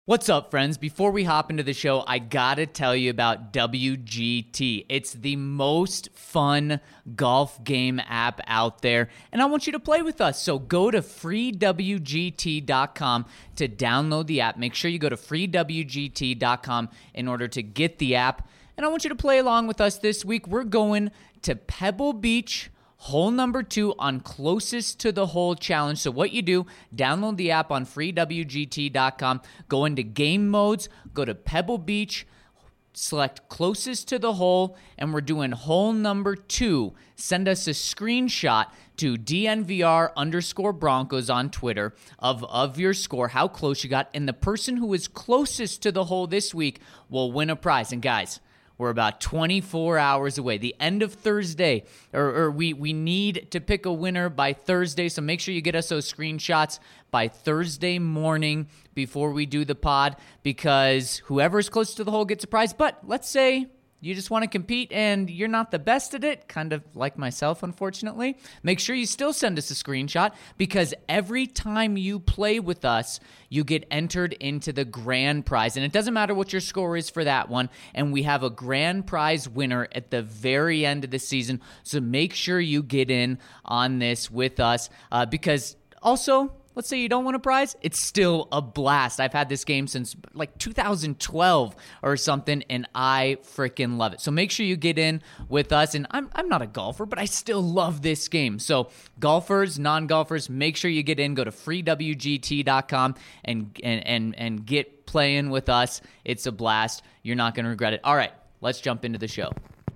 What's up, friends? Before we hop into the show, I gotta tell you about WGT. It's the most fun golf game app out there, and I want you to play with us. So go to freewgt.com to download the app. Make sure you go to freewgt.com in order to get the app, and I want you to play along with us this week. We're going to Pebble Beach, hole number 2 on closest to the hole challenge. So what you do, download the app on freewgt.com, go into game modes, go to Pebble Beach, select closest to the hole, and we're doing hole number 2. Send us a screenshot to DNVR_Broncos on Twitter of your score, how close you got, and the person who is closest to the hole this week will win a prize. And guys, we're about 24 hours away. The end of Thursday, or we need to pick a winner by Thursday, so make sure you get us those screenshots by Thursday morning before we do the pod, because whoever's close to the hole gets a prize. But let's say you just want to compete and you're not the best at it, kind of like myself, unfortunately. Make sure you still send us a screenshot, because every time you play with us, you get entered into the grand prize. And it doesn't matter what your score is for that one. And we have a grand prize winner at the very end of the season. So make sure you get in on this with us, because also, let's say you don't win a prize, it's still a blast. I've had this game since like 2012 or something, and I freaking love it. So make sure you get in with us. And I'm not a golfer, but I still love this game. So golfers, non-golfers, make sure you get in. Go to freewgt.com and get playing with us. It's a blast. You're not going to regret it. All right, let's jump into the show.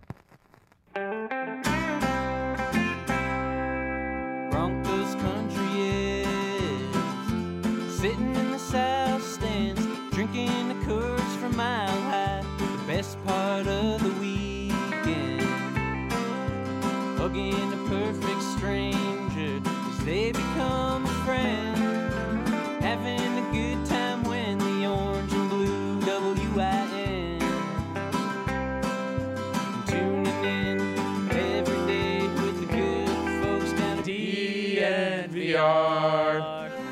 Broncos country is sitting in the south stands, drinking the Coors from Mile High. The best part of the weekend, hugging a perfect stranger as they become a friend, having a good time when the orange and blue WIN, tuning in every day with the good folks down at DNVR.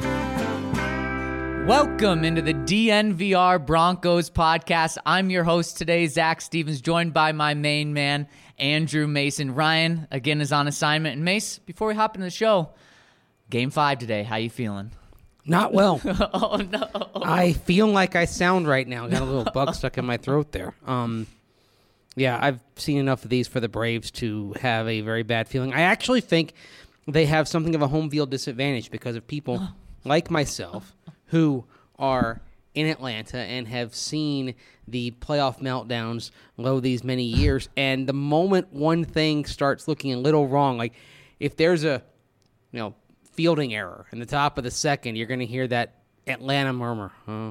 Welcome into the DNVR Broncos podcast. I'm your host today, Zach Stevens, joined by my main man, Andrew Mason. Ryan, again, is on assignment. And Mace, before we hop into the show, Game 5 today. How you feeling? Not well. Oh, no. I feel like I sound right now. Got a little bug stuck in my throat there. Yeah, I've seen enough of these for the Braves to have a very bad feeling. I actually think they have something of a home field disadvantage because of people like myself who are in Atlanta and have seen the playoff meltdowns low these many years. And the moment one thing starts looking a little wrong, like if there's a fielding error in the top of the second, you're going to hear that Atlanta murmur.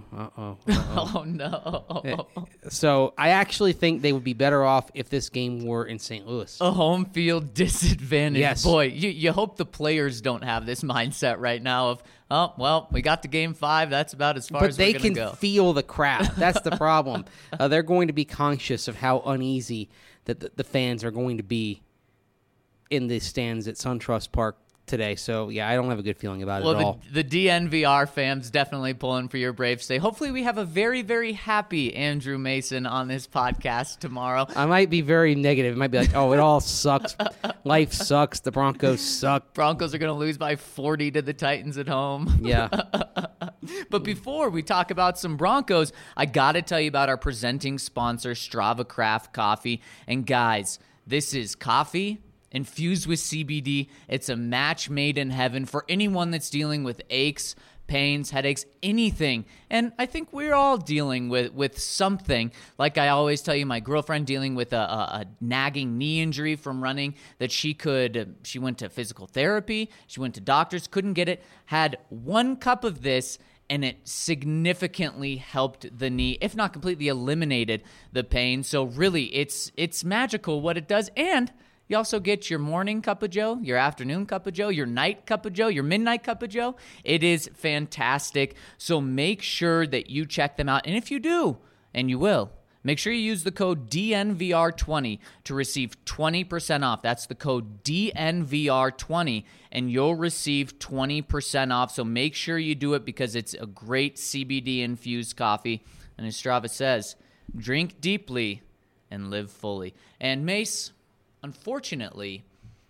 Oh, no. So I actually think they would be better off if this game were in St. Louis. A home field disadvantage. Yes. Boy, you hope the players don't have this mindset right now of, oh, well, we got to Game 5. That's about as far as we're going to go. But they can feel the crowd. That's the problem. They're going to be conscious of how uneasy that the fans are going to be in the stands at SunTrust Park today. So, yeah, I don't have a good feeling about it at all. The DNVR fans definitely pulling for your Braves today. Hopefully we have a very, very happy Andrew Mason on this podcast tomorrow. I might be very negative. It might be like, oh, it all sucks. Life sucks. The Broncos suck. Broncos are going to lose by 40 to the Titans at home. Yeah. But before we talk about some Broncos, I got to tell you about our presenting sponsor, Strava Craft Coffee. And guys, this is coffee infused with CBD. It's a match made in heaven for anyone that's dealing with aches, pains, headaches, anything. And I think we're all dealing with something. Like I always tell you, my girlfriend dealing with a nagging knee injury from running that she went to physical therapy, she went to doctors, couldn't get it, had 1 cup of this, and it significantly helped the knee, if not completely eliminated the pain. So really, it's magical what it does. And you also get your morning cup of joe, your afternoon cup of joe, your night cup of joe, your midnight cup of joe. It is fantastic. So make sure that you check them out. And if you do, and you will, Make sure you use the code DNVR20 to receive 20% off. That's the code DNVR20, and you'll receive 20% off. So make sure you do it because it's a great CBD-infused coffee. And as Strava says, drink deeply and live fully. And Mace, unfortunately,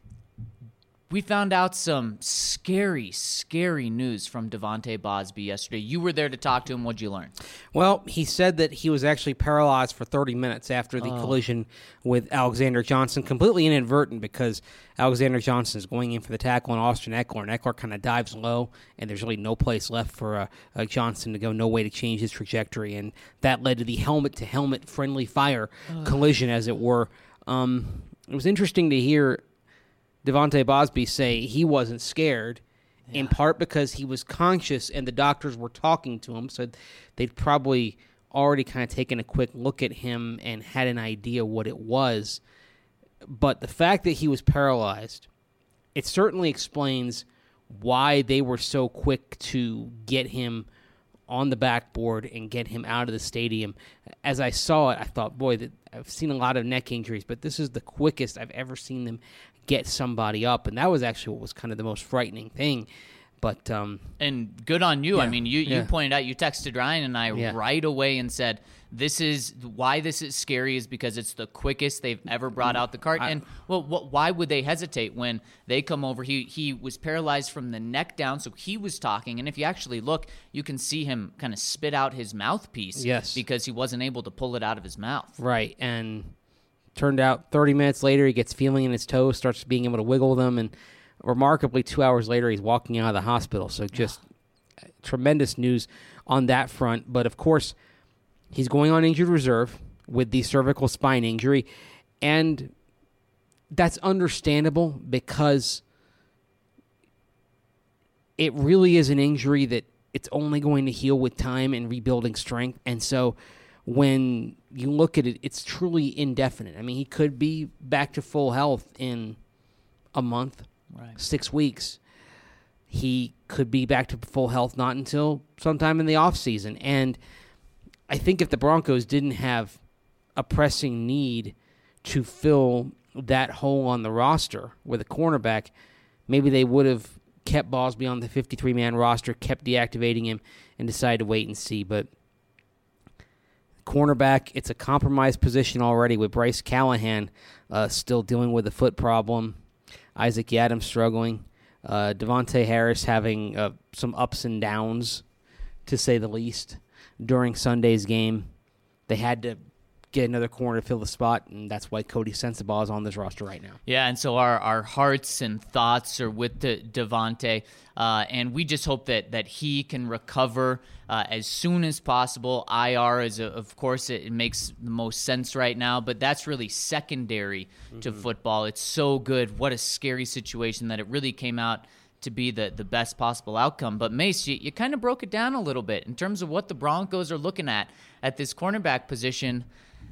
we found out some scary, scary news from Devontae Bosby yesterday. You were there to talk to him. What'd you learn? Well, he said that he was actually paralyzed for 30 minutes after the collision with Alexander Johnson, completely inadvertent because Alexander Johnson is going in for the tackle on Austin Eckler, and Eckler kind of dives low, and there's really no place left for Johnson to go, no way to change his trajectory, and that led to the helmet-to-helmet friendly fire collision, as it were. It was interesting to hear Devontae Bosby say he wasn't scared, in part because he was conscious and the doctors were talking to him, so they'd probably already kind of taken a quick look at him and had an idea what it was. But the fact that he was paralyzed, it certainly explains why they were so quick to get him on the backboard and get him out of the stadium. As I saw it, I thought, boy, I've seen a lot of neck injuries, but this is the quickest I've ever seen them get somebody up, and that was actually what was kind of the most frightening thing. But and good on you. Yeah, I mean, you pointed out, you texted Ryan and I right away and said, this is why this is scary is because it's the quickest they've ever brought out the cart. And why would they hesitate when they come over? He was paralyzed from the neck down, so he was talking. And if you actually look, you can see him kind of spit out his mouthpiece. Yes, because he wasn't able to pull it out of his mouth. Right, and turned out 30 minutes later, he gets feeling in his toes, starts being able to wiggle them, and remarkably 2 hours later, he's walking out of the hospital. So just tremendous news on that front. But, of course, he's going on injured reserve with the cervical spine injury, and that's understandable because it really is an injury that it's only going to heal with time and rebuilding strength. And so when you look at it, it's truly indefinite. I mean, he could be back to full health in a month, 6 weeks. He could be back to full health not until sometime in the offseason. And I think if the Broncos didn't have a pressing need to fill that hole on the roster with a cornerback, maybe they would have kept Bosby on the 53-man roster, kept deactivating him, and decided to wait and see. But cornerback, it's a compromised position already with Bryce Callahan still dealing with a foot problem, Isaac Yiadom struggling, Devontae Harris having some ups and downs, to say the least, during Sunday's game. They had to get another corner to fill the spot, and that's why Cody Sensabaugh is on this roster right now. Yeah, and so our hearts and thoughts are with Devontae, and we just hope that he can recover as soon as possible. IR is, of course, it makes the most sense right now, but that's really secondary to football. It's so good. What a scary situation that it really came out to be the best possible outcome. But Mace, you kind of broke it down a little bit in terms of what the Broncos are looking at this cornerback position.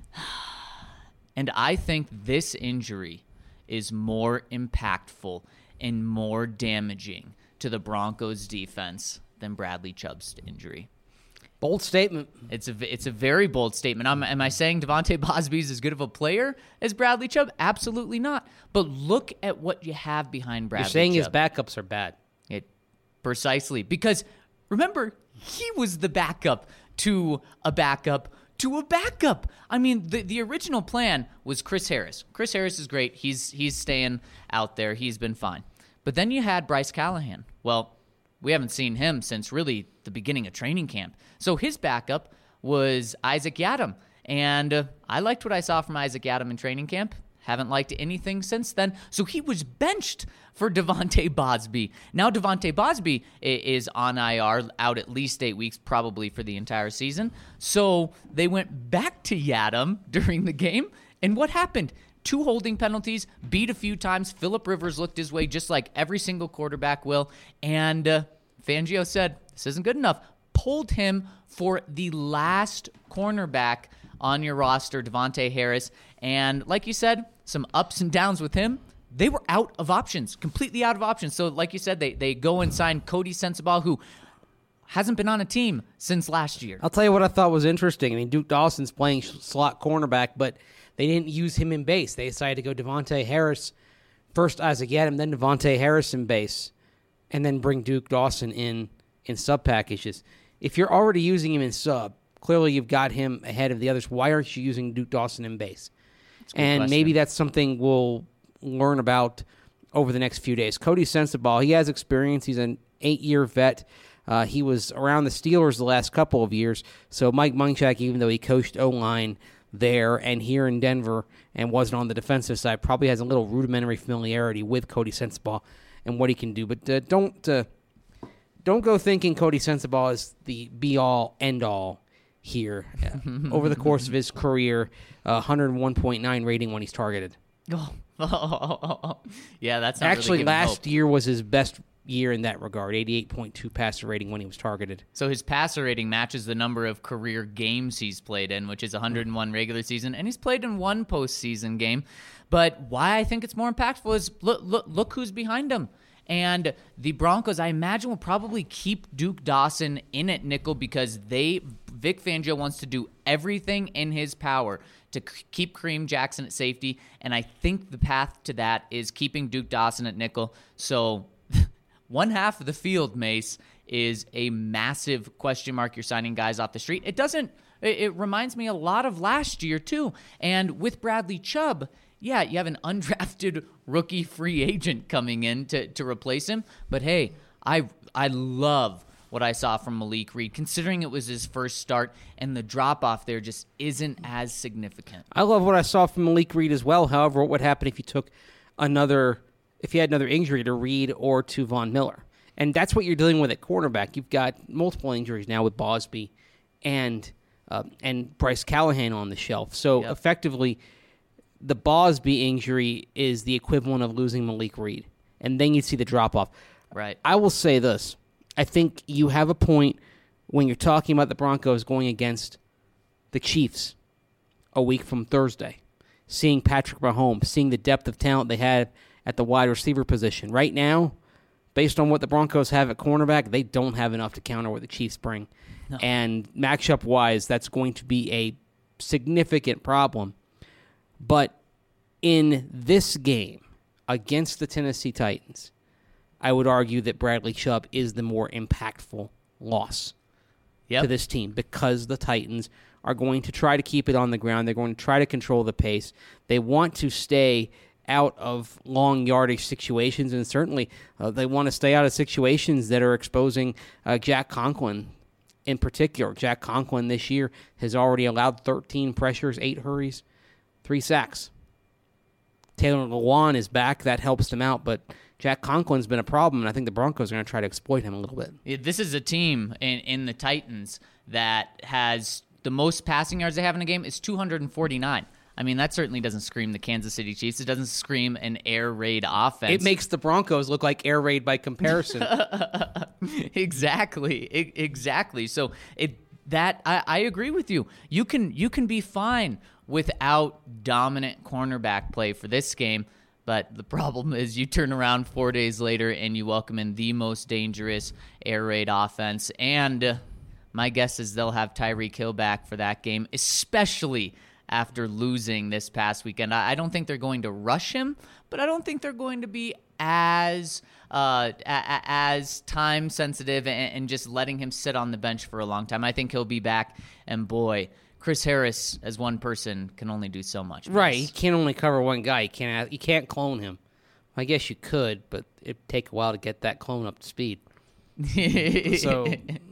And I think this injury is more impactful and more damaging to the Broncos defense than Bradley Chubb's injury. Bold statement. It's a very bold statement. Am I saying Devontae Bosby is as good of a player as Bradley Chubb? Absolutely not. But look at what you have behind Bradley Chubb. You're saying his backups are bad. Precisely. Because, remember, he was the backup to a backup to a backup. I mean, the original plan was Chris Harris. Chris Harris is great. He's staying out there. He's been fine. But then you had Bryce Callahan. Well, we haven't seen him since really the beginning of training camp. So his backup was Isaac Yiadom. And I liked what I saw from Isaac Yiadom in training camp. Haven't liked anything since then. So he was benched for Devontae Bosby. Now Devontae Bosby is on IR, out at least 8 weeks, probably for the entire season. So they went back to Yiadom during the game. And what happened? 2 holding penalties, beat a few times. Phillip Rivers looked his way just like every single quarterback will. And Fangio said, this isn't good enough. Pulled him for the last cornerback on your roster, Devontae Harris. And like you said, some ups and downs with him. They were out of options, completely out of options. So like you said, they go and sign Cody Sensabaugh, who hasn't been on a team since last year. I'll tell you what I thought was interesting. I mean, Duke Dawson's playing slot cornerback, but they didn't use him in base. They decided to go Devontae Harris, first Isaac Yiadom, then Devontae Harris in base, and then bring Duke Dawson in sub packages. If you're already using him in sub, clearly you've got him ahead of the others. Why aren't you using Duke Dawson in base? And question. maybe that's something we'll learn about over the next few days. Cody Sensabaugh, he has experience. He's an 8-year vet. He was around the Steelers the last couple of years. So Mike Munchak, even though he coached O-line there and here in Denver and wasn't on the defensive side, probably has a little rudimentary familiarity with Cody Sensabaugh and what he can do. But don't go thinking Cody Sensabaugh is the be-all, end-all here. Over the course of his career, 101.9 rating when he's targeted. Yeah, that's not actually really last year was his best year in that regard, 88.2 passer rating when he was targeted. So his passer rating matches the number of career games he's played in, which is 101 regular season, and he's played in one postseason game. But why I think it's more impactful is look who's behind him. And the Broncos, I imagine, will probably keep Duke Dawson in at nickel because Vic Fangio wants to do everything in his power to keep Kareem Jackson at safety, and I think the path to that is keeping Duke Dawson at nickel. So one half of the field, Mace, is a massive question mark. You're signing guys off the street. It reminds me a lot of last year, too. And with Bradley Chubb, yeah, you have an undrafted rookie free agent coming in to replace him. But, hey, I love what I saw from Malik Reed, considering it was his first start, and the drop-off there just isn't as significant. I love what I saw from Malik Reed as well. However, what would happen if you had another injury to Reed or to Von Miller? And that's what you're dealing with at cornerback. You've got multiple injuries now with Bosby and Bryce Callahan on the shelf. So effectively, the Bosby injury is the equivalent of losing Malik Reed. And then you see the drop-off. Right. I will say this. I think you have a point when you're talking about the Broncos going against the Chiefs a week from Thursday, seeing Patrick Mahomes, seeing the depth of talent they had at the wide receiver position. Right now, based on what the Broncos have at cornerback, they don't have enough to counter what the Chiefs bring. No. And matchup-wise, that's going to be a significant problem. But in this game against the Tennessee Titans, I would argue that Bradley Chubb is the more impactful loss to this team because the Titans are going to try to keep it on the ground. They're going to try to control the pace. They want to stay out of long yardage situations, and certainly they want to stay out of situations that are exposing Jack Conklin in particular. Jack Conklin this year has already allowed 13 pressures, 8 hurries, 3 sacks. Taylor Lewan is back. That helps them out, but Jack Conklin's been a problem, and I think the Broncos are going to try to exploit him a little bit. Yeah, this is a team in the Titans that has the most passing yards they have in a game is 249. I mean, that certainly doesn't scream the Kansas City Chiefs. It doesn't scream an air raid offense. It makes the Broncos look like air raid by comparison. Exactly. So I agree with you. You can be fine without dominant cornerback play for this game. But the problem is you turn around 4 days later and you welcome in the most dangerous air raid offense. And my guess is they'll have Tyreek Hill back for that game, especially after losing this past weekend. I don't think they're going to rush him, but I don't think they're going to be as time sensitive and just letting him sit on the bench for a long time. I think he'll be back, and boy, Chris Harris, as one person, can only do so much. Right, he can't only cover one guy. You can't clone him. I guess you could, but it'd take a while to get that clone up to speed. So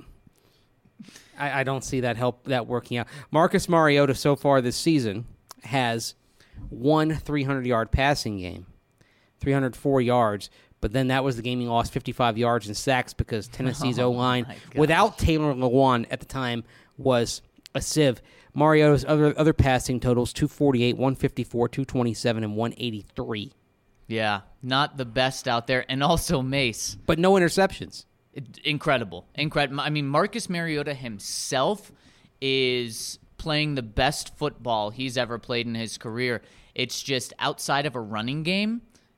I don't see that working out. Marcus Mariota so far this season has one 300-yard passing game, 304 yards, but then that was the game he lost 55 yards in sacks because Tennessee's O-line, without Taylor Lewan at the time, was a sieve. Mariota's other passing totals, 248, 154, 227, and 183. Yeah, not the best out there. And also Mace. But no interceptions. Incredible. I mean, Marcus Mariota himself is playing the best football he's ever played in his career. It's just outside of a running game,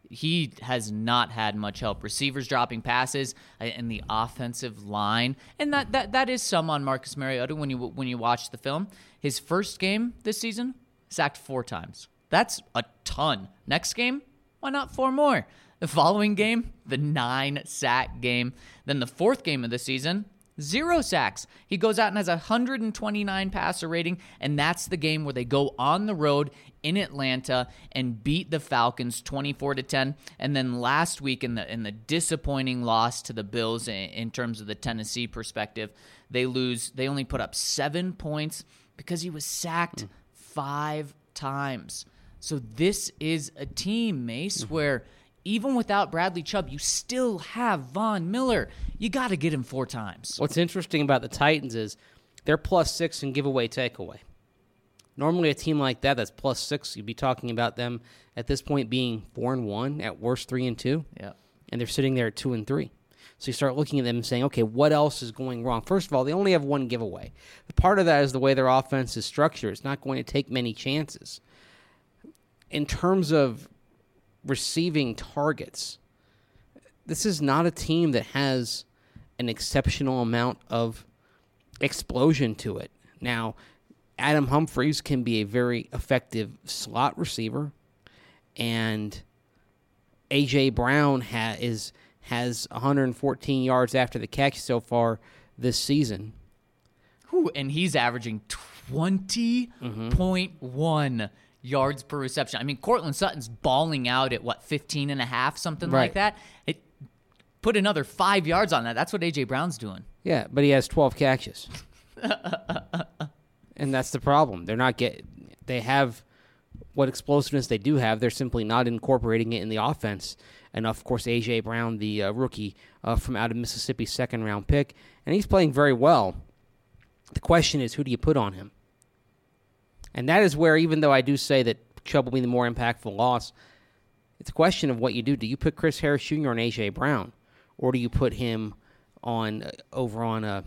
he has not had much help. Receivers dropping passes and the offensive line, and that is some on Marcus Mariota when you watch the film. His first game this season, sacked 4 times. That's a ton. Next game, why not 4 more? The following game, the 9-sack game. Then the 4th game of the season, 0 sacks. He goes out and has a 129 passer rating, and that's the game where they go on the road in Atlanta and beat the Falcons 24-10. And then last week in the disappointing loss to the Bills in terms of the Tennessee perspective, they lose. They only put up 7 points because he was sacked 5 times. So this is a team, Mace, where even without Bradley Chubb, you still have Von Miller. You got to get him 4 times. What's interesting about the Titans is they're +6 in giveaway takeaway. Normally a team like that's +6, you'd be talking about them at this point being 4-1, at worst 3-2. Yeah. And they're sitting there at 2-3. So you start looking at them and saying, okay, what else is going wrong? First of all, they only have 1 giveaway. Part of that is the way their offense is structured. It's not going to take many chances. In terms of receiving targets, this is not a team that has an exceptional amount of explosion to it. Now, Adam Humphries can be a very effective slot receiver, and A.J. Brown has 114 yards after the catch so far this season. Ooh, and he's averaging 20.1 yards per reception. I mean, Cortland Sutton's balling out at, 15 and a half, something like that. It put another 5 yards on that. That's what A.J. Brown's doing. Yeah, but he has 12 catches. And that's the problem. They have what explosiveness they do have. They're simply not incorporating it in the offense enough. Of course, A.J. Brown, the rookie from out of Mississippi, 2nd-round pick, and he's playing very well. The question is, who do you put on him? And that is where, even though I do say that Chubb will be the more impactful loss, it's a question of what you do. Do you put Chris Harris Jr. on A.J. Brown, or do you put him over on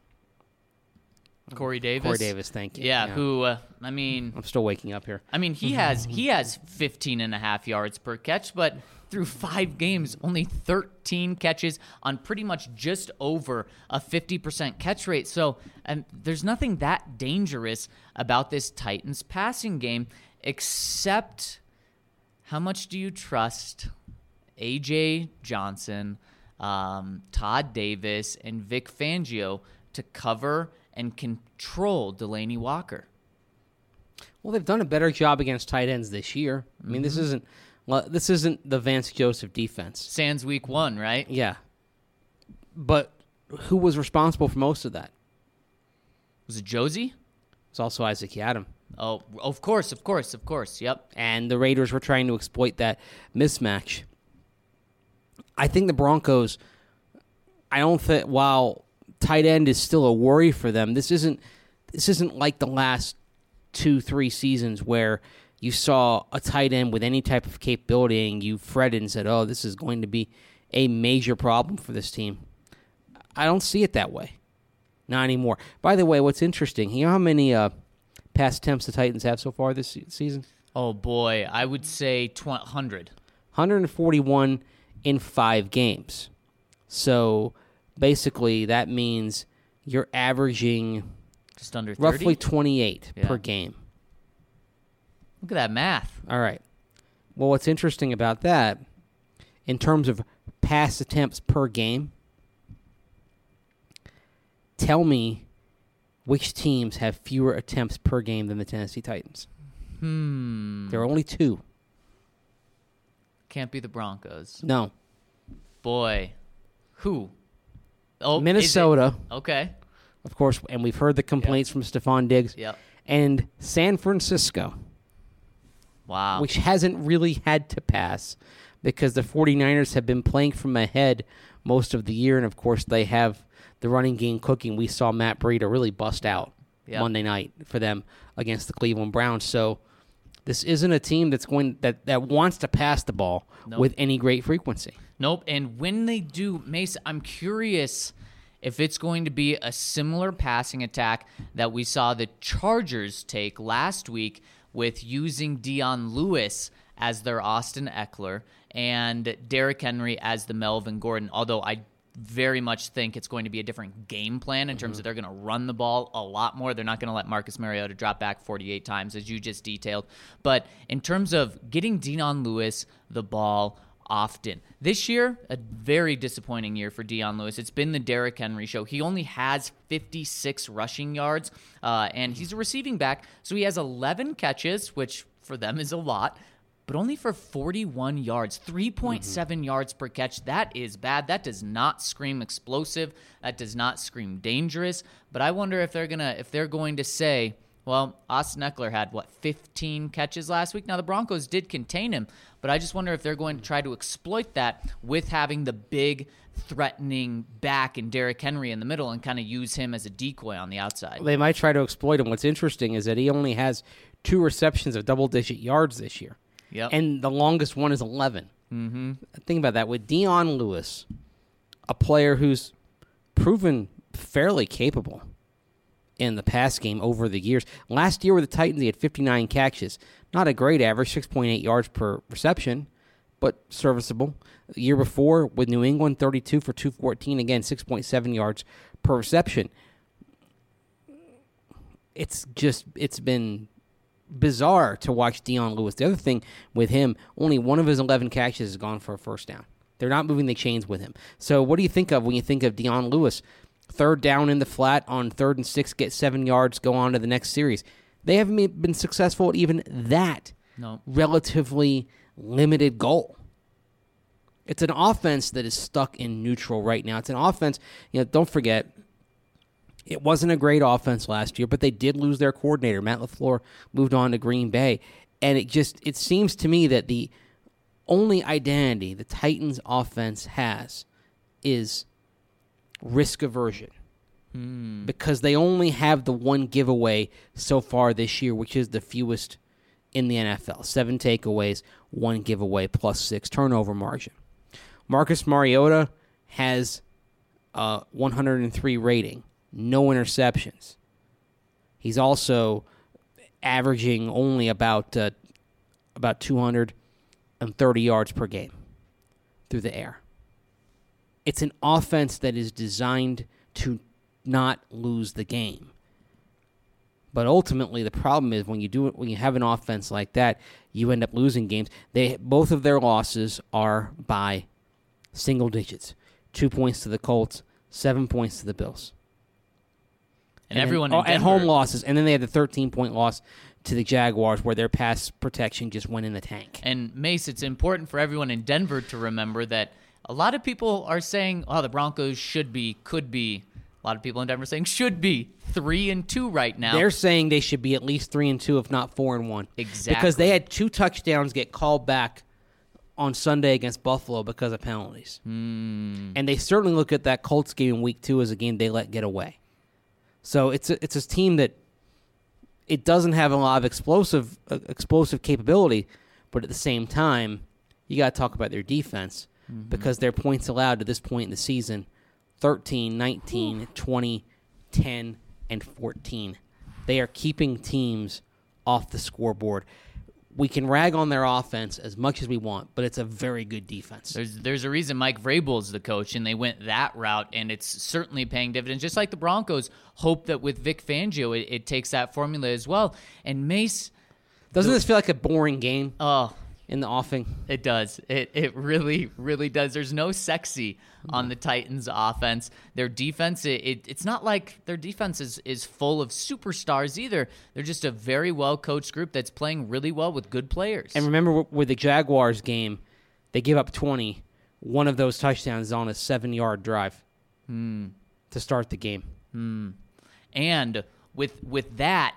Corey Davis? Corey Davis, thank you. Yeah. Who, I mean... I'm still waking up here. I mean, he has 15 and a half yards per catch, but through 5 games, only 13 catches on pretty much just over a 50% catch rate. So there's nothing that dangerous about this Titans passing game, except how much do you trust A.J. Johnson, Todd Davis, and Vic Fangio to cover and control Delanie Walker? Well, they've done a better job against tight ends this year. I mean, this isn't the Vance Joseph defense. Sans week 1, right? Yeah. But who was responsible for most of that? Was it Josie? It's also Isaac Yiadom. Oh, of course. Yep. And the Raiders were trying to exploit that mismatch. I think the Broncos, while tight end is still a worry for them, this isn't like the last 2-3 seasons where you saw a tight end with any type of capability and you fretted and said, oh, this is going to be a major problem for this team. I don't see it that way. Not anymore. By the way, what's interesting, you know how many pass attempts the Titans have so far this season? Oh, boy. I would say 100. 141 in 5 games. So basically that means you're averaging just under 30? roughly 28 per game. Look at that math. All right. Well, what's interesting about that, in terms of pass attempts per game, tell me which teams have fewer attempts per game than the Tennessee Titans. There are only 2. Can't be the Broncos. No. Boy. Who? Oh, Minnesota. Okay. Of course, and we've heard the complaints from Stephon Diggs. Yep. And San Francisco. Wow. Which hasn't really had to pass because the 49ers have been playing from ahead most of the year, and of course they have the running game cooking. We saw Matt Breida really bust out Monday night for them against the Cleveland Browns. So this isn't a team that wants to pass the ball with any great frequency. Nope. And when they do, Mace, I'm curious if it's going to be a similar passing attack that we saw the Chargers take last week with using Dion Lewis as their Austin Eckler and Derrick Henry as the Melvin Gordon, although I very much think it's going to be a different game plan in terms of they're going to run the ball a lot more. They're not going to let Marcus Mariota drop back 48 times, as you just detailed. But in terms of getting Dion Lewis the ball often, this year, a very disappointing year for Dion Lewis. It's been the Derrick Henry show. He only has 56 rushing yards, and he's a receiving back, so he has 11 catches, which for them is a lot, but only for 41 yards, 3.7 yards per catch. That is bad. That does not scream explosive. That does not scream dangerous. But I wonder if they're going to say, well, Austin Eckler had, 15 catches last week? Now, the Broncos did contain him, but I just wonder if they're going to try to exploit that with having the big, threatening back in Derrick Henry in the middle and kind of use him as a decoy on the outside. They might try to exploit him. What's interesting is that he only has 2 receptions of double-digit yards this year. Yep. And the longest one is 11. Mm-hmm. Think about that. With Dion Lewis, a player who's proven fairly capable in the pass game over the years. Last year with the Titans, he had 59 catches. Not a great average, 6.8 yards per reception, but serviceable. The year before with New England, 32 for 214. Again, 6.7 yards per reception. It's been bizarre to watch Dion Lewis. The other thing with him, only one of his 11 catches has gone for a first down. They're not moving the chains with him. So what do you think of when you think of Dion Lewis? Third down in the flat on 3rd and 6, get 7 yards, go on to the next series. They haven't been successful at even that relatively limited goal. It's an offense that is stuck in neutral right now. It's an offense, don't forget, it wasn't a great offense last year, but they did lose their coordinator. Matt LaFleur moved on to Green Bay. And it seems to me that the only identity the Titans offense has is risk aversion. Because they only have the one giveaway so far this year, which is the fewest in the NFL. 7 takeaways, 1 giveaway, plus 6 turnover margin. Marcus Mariota has a 103 rating. No interceptions. He's also averaging only about 230 yards per game through the air. It's an offense that is designed to not lose the game. But ultimately, the problem is when you have an offense like that, you end up losing games. Both of their losses are by single digits. 2 points to the Colts, 7 points to the Bills. And everyone in Denver, at home losses, and then they had the 13-point loss to the Jaguars where their pass protection just went in the tank. And Mace, it's important for everyone in Denver to remember that a lot of people are saying, the Broncos could be. A lot of people in Denver saying should be 3-2 right now. They're saying they should be at least 3-2, if not 4-1. Exactly. Because they had 2 touchdowns get called back on Sunday against Buffalo because of penalties. And they certainly look at that Colts game in Week 2 as a game they let get away. So it's a team that it doesn't have a lot of explosive capability, but at the same time, you got to talk about their defense because their points allowed to this point in the season, 13, 19, 20, 10, and 14. They are keeping teams off the scoreboard. We can rag on their offense as much as we want, but it's a very good defense. There's a reason Mike Vrabel's the coach, and they went that route, and it's certainly paying dividends. Just like the Broncos hope that with Vic Fangio, it takes that formula as well. And Mace, doesn't this feel like a boring game? Oh, in the offing, it does. It really, really does. There's no sexy on the Titans' offense. Their defense, it's not like their defense is full of superstars either. They're just a very well-coached group that's playing really well with good players. And remember, with the Jaguars game, they give up 20. One of those touchdowns is on a 7-yard drive to start the game. And with that,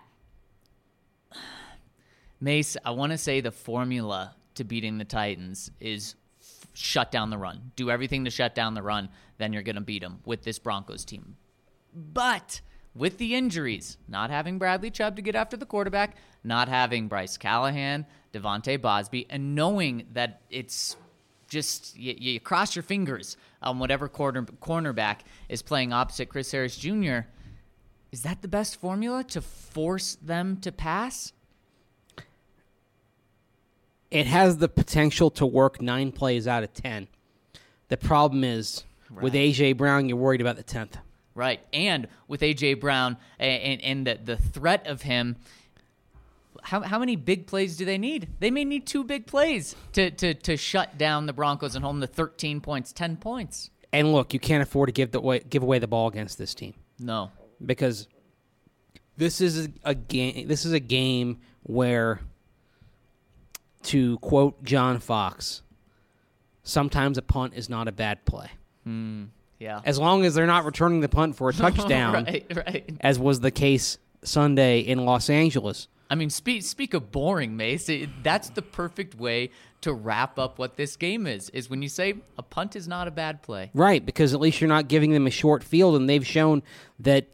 Mace, I want to say the formula to beating the Titans is shut down the run. Do everything to shut down the run, then you're going to beat them with this Broncos team. But with the injuries, not having Bradley Chubb to get after the quarterback, not having Bryce Callahan, Devontae Bosby, and knowing that it's just you cross your fingers on whatever cornerback is playing opposite Chris Harris Jr., is that the best formula to force them to pass? it has the potential to work 9 plays out of 10. The problem is, with A.J. Brown, you're worried about the 10th. Right. And with A.J. Brown and the threat of him, how many big plays do they need? They may need 2 big plays to shut down the Broncos and hold them to 13 points, 10 points. And look, you can't afford to give away the ball against this team. No. Because this is a game. This is a game where, to quote John Fox, sometimes a punt is not a bad play. Yeah. As long as they're not returning the punt for a touchdown, right. as was the case Sunday in Los Angeles. I mean, speak of boring, Mace. That's the perfect way to wrap up what this game is when you say a punt is not a bad play. Right, because at least you're not giving them a short field, and they've shown that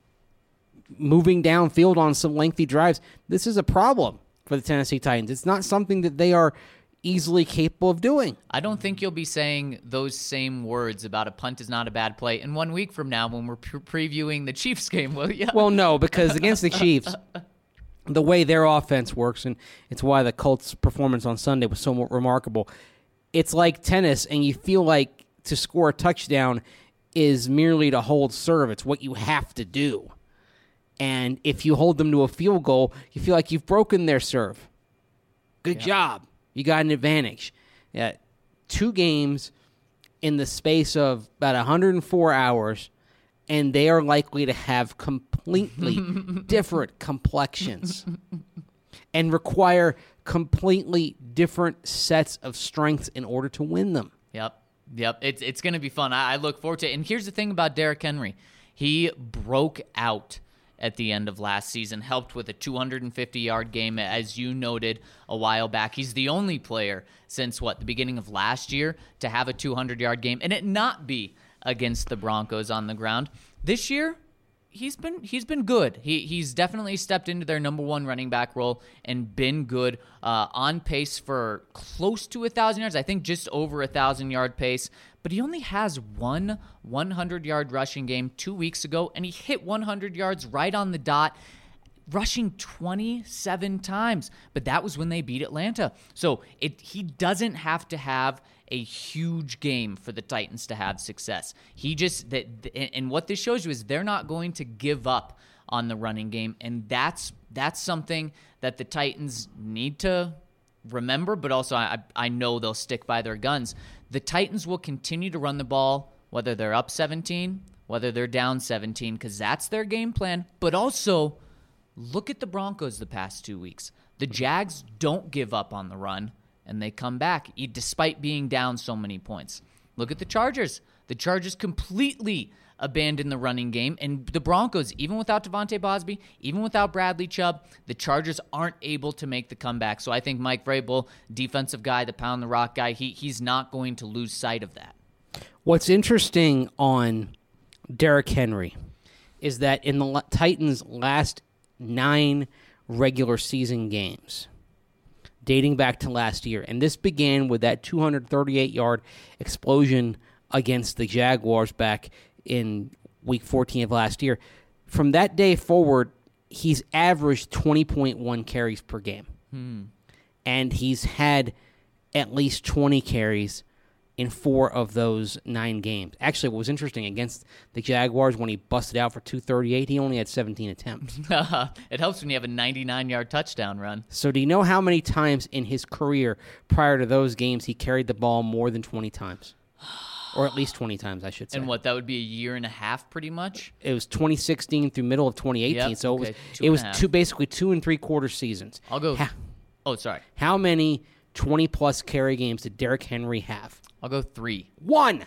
moving downfield on some lengthy drives, this is a problem for the Tennessee Titans. It's not something that they are easily capable of doing. I don't think you'll be saying those same words about a punt is not a bad play in 1 week from now when we're previewing the Chiefs game, will you? Well, no, because against the Chiefs, the way their offense works, and it's why the Colts' performance on Sunday was so remarkable, it's like tennis, and you feel like to score a touchdown is merely to hold serve. It's what you have to do. And if you hold them to a field goal, you feel like you've broken their serve. Good job. You got an advantage. 2 games in the space of about 104 hours, and they are likely to have completely different complexions and require completely different sets of strengths in order to win them. Yep. It's going to be fun. I look forward to it. And here's the thing about Derrick Henry. He broke out at the end of last season, helped with a 250-yard game, as you noted a while back. He's the only player since, the beginning of last year to have a 200-yard game and it not be against the Broncos on the ground. This year, he's been good. He's definitely stepped into their number 1 running back role and been good, on pace for close to 1,000 yards. I think just over 1,000-yard pace. But he only has one 100-yard rushing game 2 weeks ago, and he hit 100 yards right on the dot, rushing 27 times. But that was when they beat Atlanta. So he doesn't have to have a huge game for the Titans to have success. And what this shows you is they're not going to give up on the running game, and that's something that the Titans need to remember, but also I know they'll stick by their guns. The Titans will continue to run the ball, whether they're up 17, whether they're down 17, because that's their game plan. But also, look at the Broncos the past 2 weeks. The Jags don't give up on the run, and they come back, despite being down so many points. Look at the Chargers. The Chargers completely abandon the running game. And the Broncos, even without Devontae Bosby, even without Bradley Chubb, the Chargers aren't able to make the comeback. So I think Mike Vrabel, defensive guy, the pound the rock guy, he's not going to lose sight of that. What's interesting on Derrick Henry is that in the Titans' last 9 regular season games, dating back to last year, and this began with that 238-yard explosion against the Jaguars back in week 14 of last year. From that day forward, he's averaged 20.1 carries per game. And he's had at least 20 carries in 4 of those 9 games. Actually, what was interesting, against the Jaguars, when he busted out for 238, he only had 17 attempts. It helps when you have a 99-yard touchdown run. So do you know how many times in his career prior to those games he carried the ball more than 20 times? Or at least 20 times, I should say. And that would be a year and a half, pretty much? It was 2016 through middle of 2018, Yep, so okay, it was basically 2 3/4 seasons. I'll go... sorry. How many 20-plus carry games did Derrick Henry have? I'll go 3. 1.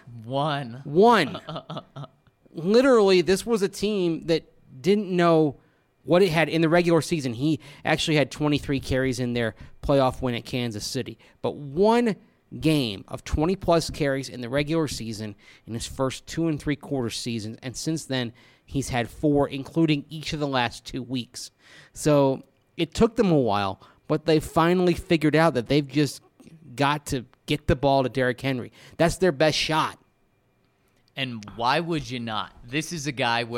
1. Literally, this was a team that didn't know what it had in the regular season. He actually had 23 carries in their playoff win at Kansas City. But 1 game of 20-plus carries in the regular season in his first 2 3/4 seasons, and since then he's had 4, including each of the last 2 weeks. So it took them a while, but they finally figured out that they've just got to get the ball to Derrick Henry. That's their best shot. And why would you not? This is a guy where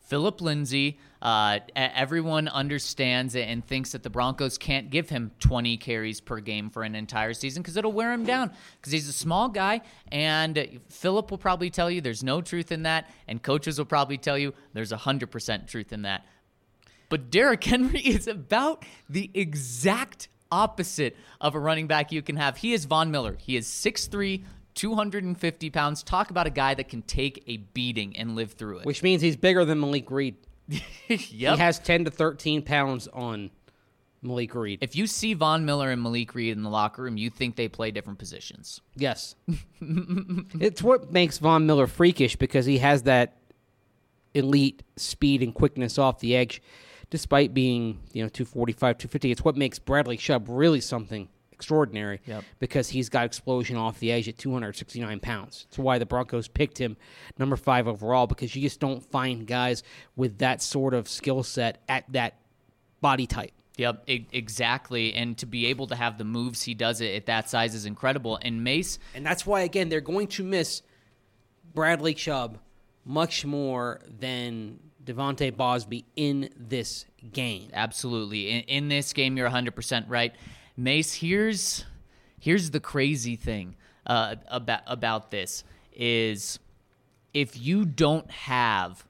Phillip Lindsay, everyone understands it and thinks that the Broncos can't give him 20 carries per game for an entire season because it'll wear him down because he's a small guy. And Phillip will probably tell you there's no truth in that. And coaches will probably tell you there's 100% truth in that. But Derrick Henry is about the exact opposite of a running back you can have. He is Von Miller. He is 6'3", 250 pounds. Talk about a guy that can take a beating and live through it. Which means he's bigger than Malik Reed. Yep. He has 10 to 13 pounds on Malik Reed. If you see Von Miller and Malik Reed in the locker room, you think they play different positions. Yes. It's what makes Von Miller freakish because he has that elite speed and quickness off the edge despite being 245, 250. It's what makes Bradley Chubb really something extraordinary because he's got explosion off the edge at 269 pounds. That's why the Broncos picked him number 5 overall because you just don't find guys with that sort of skill set at that body type. Yep, exactly. And to be able to have the moves he does it at that size is incredible. And Mace... And that's why, again, they're going to miss Bradley Chubb much more than Devontae Bosby in this game. Absolutely. In this game, you're 100% right. Mace, here's the crazy thing about this is if you don't have...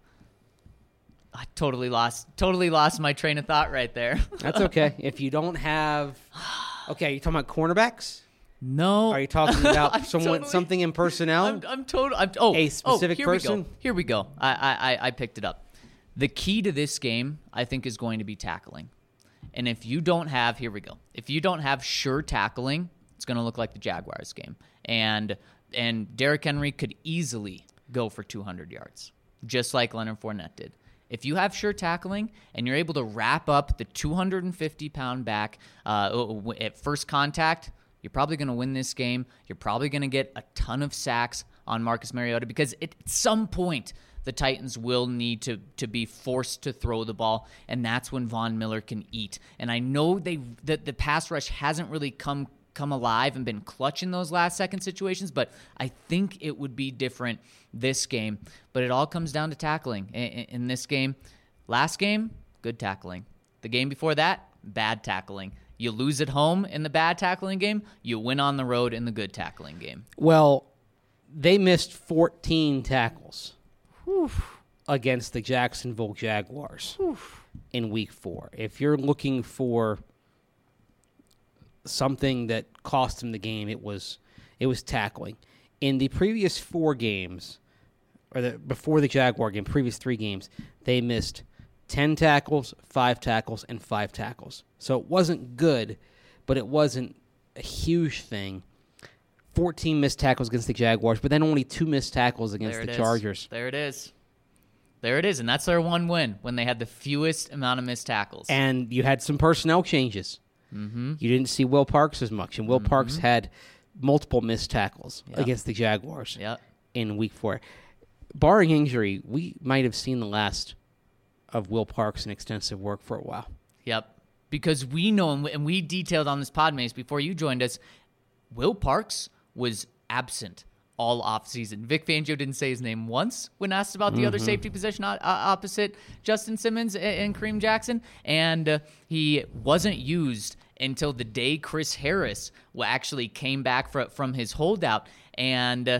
I totally lost my train of thought right there. That's okay. If you don't have... Okay, you talking about cornerbacks? No. Are you talking about something in personnel? A specific person? Here we go. I picked it up. The key to this game, I think, is going to be tackling. And if you don't have, here we go. If you don't have sure tackling, it's going to look like the Jaguars game. And Derrick Henry could easily go for 200 yards, just like Leonard Fournette did. If you have sure tackling and you're able to wrap up the 250-pound back at first contact, you're probably going to win this game. You're probably going to get a ton of sacks on Marcus Mariota because at some point the Titans will need to be forced to throw the ball, and that's when Von Miller can eat. And I know that the pass rush hasn't really come alive and been clutch in those last-second situations, but I think it would be different this game. But it all comes down to tackling. In this game, last game, good tackling. The game before that, bad tackling. You lose at home in the bad tackling game, you win on the road in the good tackling game. Well, they missed 14 tackles against the Jacksonville Jaguars in Week 4. If you're looking for something that cost them the game, it was tackling. In the previous 4 games, before the Jaguar game, previous 3 games, they missed 10 tackles, 5 tackles, and 5 tackles. So it wasn't good, but it wasn't a huge thing. 14 missed tackles against the Jaguars, but then only 2 missed tackles against the Chargers. There it is. And that's their one win, when they had the fewest amount of missed tackles. And you had some personnel changes. Mm-hmm. You didn't see Will Parks as much, and Will Parks had multiple missed tackles against the Jaguars in Week 4. Barring injury, we might have seen the last of Will Parks in extensive work for a while. Yep. Because we know, and we detailed on this Podmaze before you joined us, Will Parks was absent all offseason. Vic Fangio didn't say his name once when asked about the other safety position opposite Justin Simmons and Kareem Jackson, and he wasn't used until the day Chris Harris actually came back from his holdout, and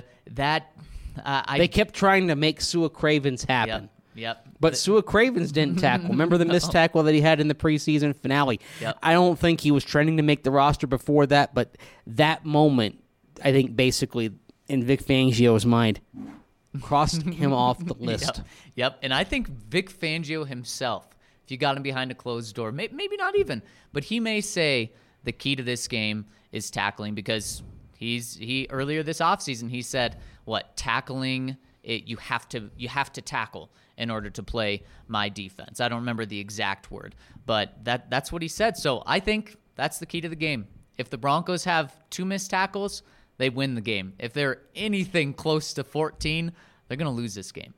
they kept trying to make Sua Cravens happen. Yep. But Sua Cravens didn't tackle. Remember the missed tackle that he had in the preseason finale? Yep. I don't think he was trending to make the roster before that, but that moment, I think basically in Vic Fangio's mind, crossed him off the list. Yep. And I think Vic Fangio himself, if you got him behind a closed door, maybe not even, but he may say the key to this game is tackling because he earlier this offseason he said, tackling it, you have to tackle in order to play my defense. I don't remember the exact word, but that's what he said. So I think that's the key to the game. If the Broncos have 2 missed tackles, they win the game. If they're anything close to 14, they're going to lose this game.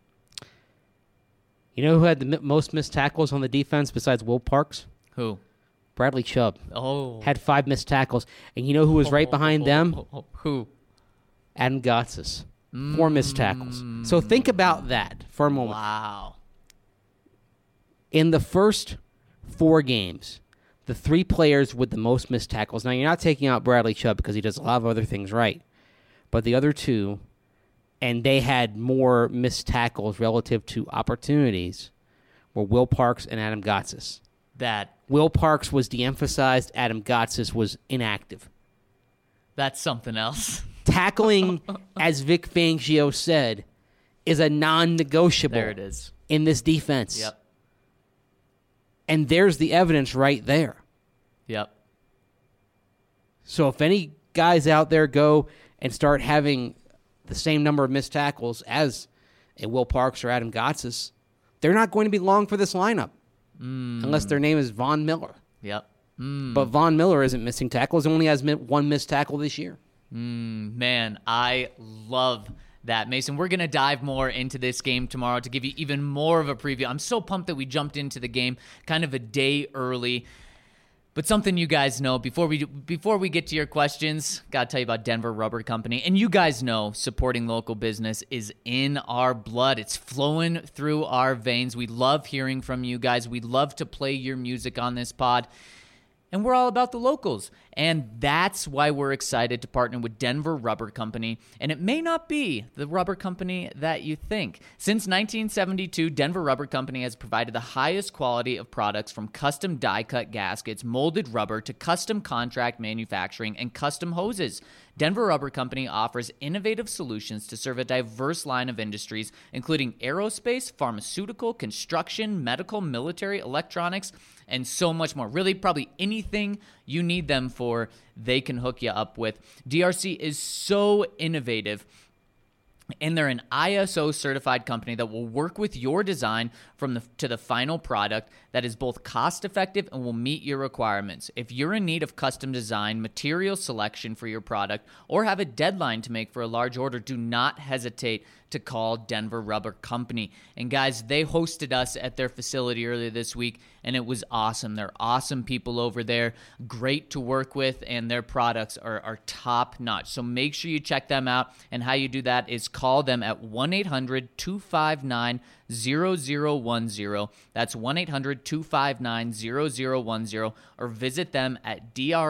You know who had the most missed tackles on the defense besides Will Parks? Who? Bradley Chubb. Oh. Had 5 missed tackles. And you know who was right behind them? Who? Adam Gotsis. 4 missed tackles. So think about that for a moment. Wow. In the first 4 games, the 3 players with the most missed tackles. Now, you're not taking out Bradley Chubb because he does a lot of other things right. But the other 2, and they had more missed tackles relative to opportunities, were Will Parks and Adam Gotsis. Will Parks was de-emphasized. Adam Gotsis was inactive. That's something else. Tackling, as Vic Fangio said, is a non-negotiable. There it is. In this defense. Yep. And there's the evidence right there. Yep. So if any guys out there go and start having the same number of missed tackles as a Will Parks or Adam Gotsis, they're not going to be long for this lineup unless their name is Von Miller. Yep. But Von Miller isn't missing tackles. He only has 1 missed tackle this year. Man, I love that, Mason. We're going to dive more into this game tomorrow to give you even more of a preview. I'm so pumped that we jumped into the game kind of a day early. But something you guys know, before we get to your questions, got to tell you about Denver Rubber Company. And you guys know supporting local business is in our blood. It's flowing through our veins. We love hearing from you guys. We love to play your music on this pod. And we're all about the locals. And that's why we're excited to partner with Denver Rubber Company. And it may not be the rubber company that you think. Since 1972, Denver Rubber Company has provided the highest quality of products, from custom die-cut gaskets, molded rubber, to custom contract manufacturing and custom hoses. Denver Rubber Company offers innovative solutions to serve a diverse line of industries, including aerospace, pharmaceutical, construction, medical, military, electronics, and so much more. Really, probably anything you need them for, they can hook you up with. DRC is so innovative, and they're an ISO certified company that will work with your design to the final product that is both cost effective and will meet your requirements. If you're in need of custom design, material selection for your product, or have a deadline to make for a large order, do not hesitate to call Denver Rubber Company. And guys, they hosted us at their facility earlier this week, and it was awesome. They're awesome people over there, great to work with, and their products are top notch. So make sure you check them out, and how you do that is call them at 1-800-259-0010. That's 1-800-259-0010, or visit them at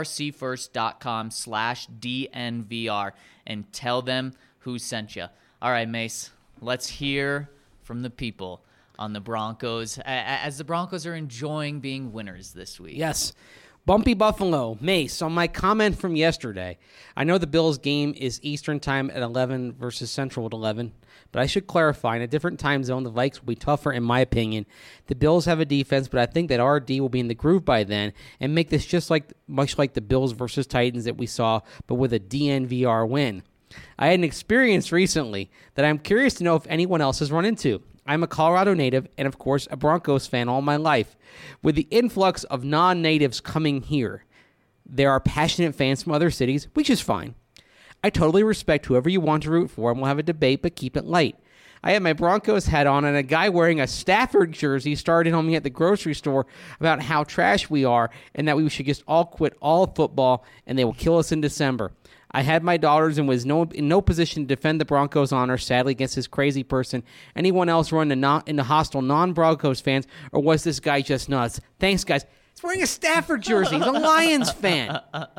drcfirst.com/DNVR and tell them who sent you. All right, Mace, let's hear from the people on the Broncos as the Broncos are enjoying being winners this week. Yes. Bumpy Buffalo, Mace, on my comment from yesterday, I know the Bills game is Eastern time at 11 versus Central at 11, but I should clarify, in a different time zone, the Vikes will be tougher, in my opinion. The Bills have a defense, but I think that our D will be in the groove by then and make this much like the Bills versus Titans that we saw, but with a DNVR win. I had an experience recently that I'm curious to know if anyone else has run into. I'm a Colorado native and, of course, a Broncos fan all my life. With the influx of non-natives coming here, there are passionate fans from other cities, which is fine. I totally respect whoever you want to root for, and we'll have a debate, but keep it light. I had my Broncos hat on, and a guy wearing a Stafford jersey started on me at the grocery store about how trash we are and that we should just all quit all football and they will kill us in December. I had my daughters and was in no position to defend the Broncos' honor, sadly, against this crazy person. Anyone else run into hostile non-Broncos fans, or was this guy just nuts? Thanks, guys. He's wearing a Stafford jersey. He's a Lions fan.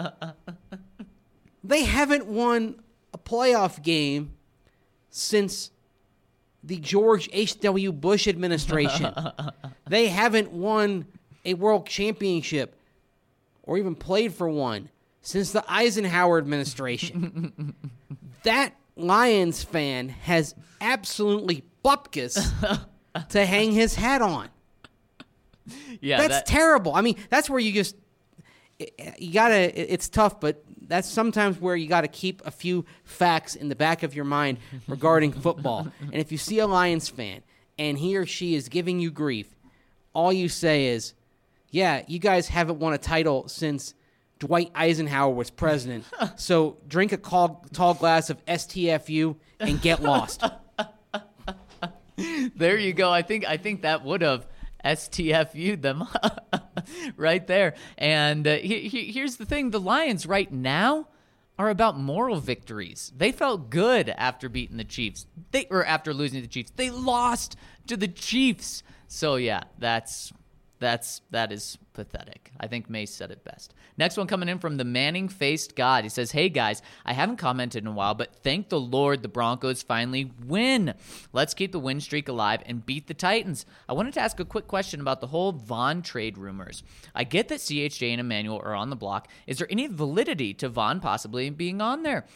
They haven't won a playoff game since the George H.W. Bush administration. They haven't won a world championship or even played for one since the Eisenhower administration. That Lions fan has absolutely bupkis to hang his hat on. Yeah, that's terrible. I mean, that's where you gotta, it's tough, but that's sometimes where you gotta keep a few facts in the back of your mind regarding football. And if you see a Lions fan and he or she is giving you grief, all you say is, yeah, you guys haven't won a title since Dwight Eisenhower was president, so drink a tall glass of STFU and get lost. There you go. I think that would have STFU'd them right there. And here's the thing. The Lions right now are about moral victories. They felt good after beating the Chiefs. After losing to the Chiefs. They lost to the Chiefs So yeah, that is pathetic. I think Mace said it best. Next one coming in from the Manning-faced God. He says, "Hey guys, I haven't commented in a while, but thank the Lord the Broncos finally win. Let's keep the win streak alive and beat the Titans." I wanted to ask a quick question about the whole Von trade rumors. I get that CHJ and Emmanuel are on the block. Is there any validity to Von possibly being on there?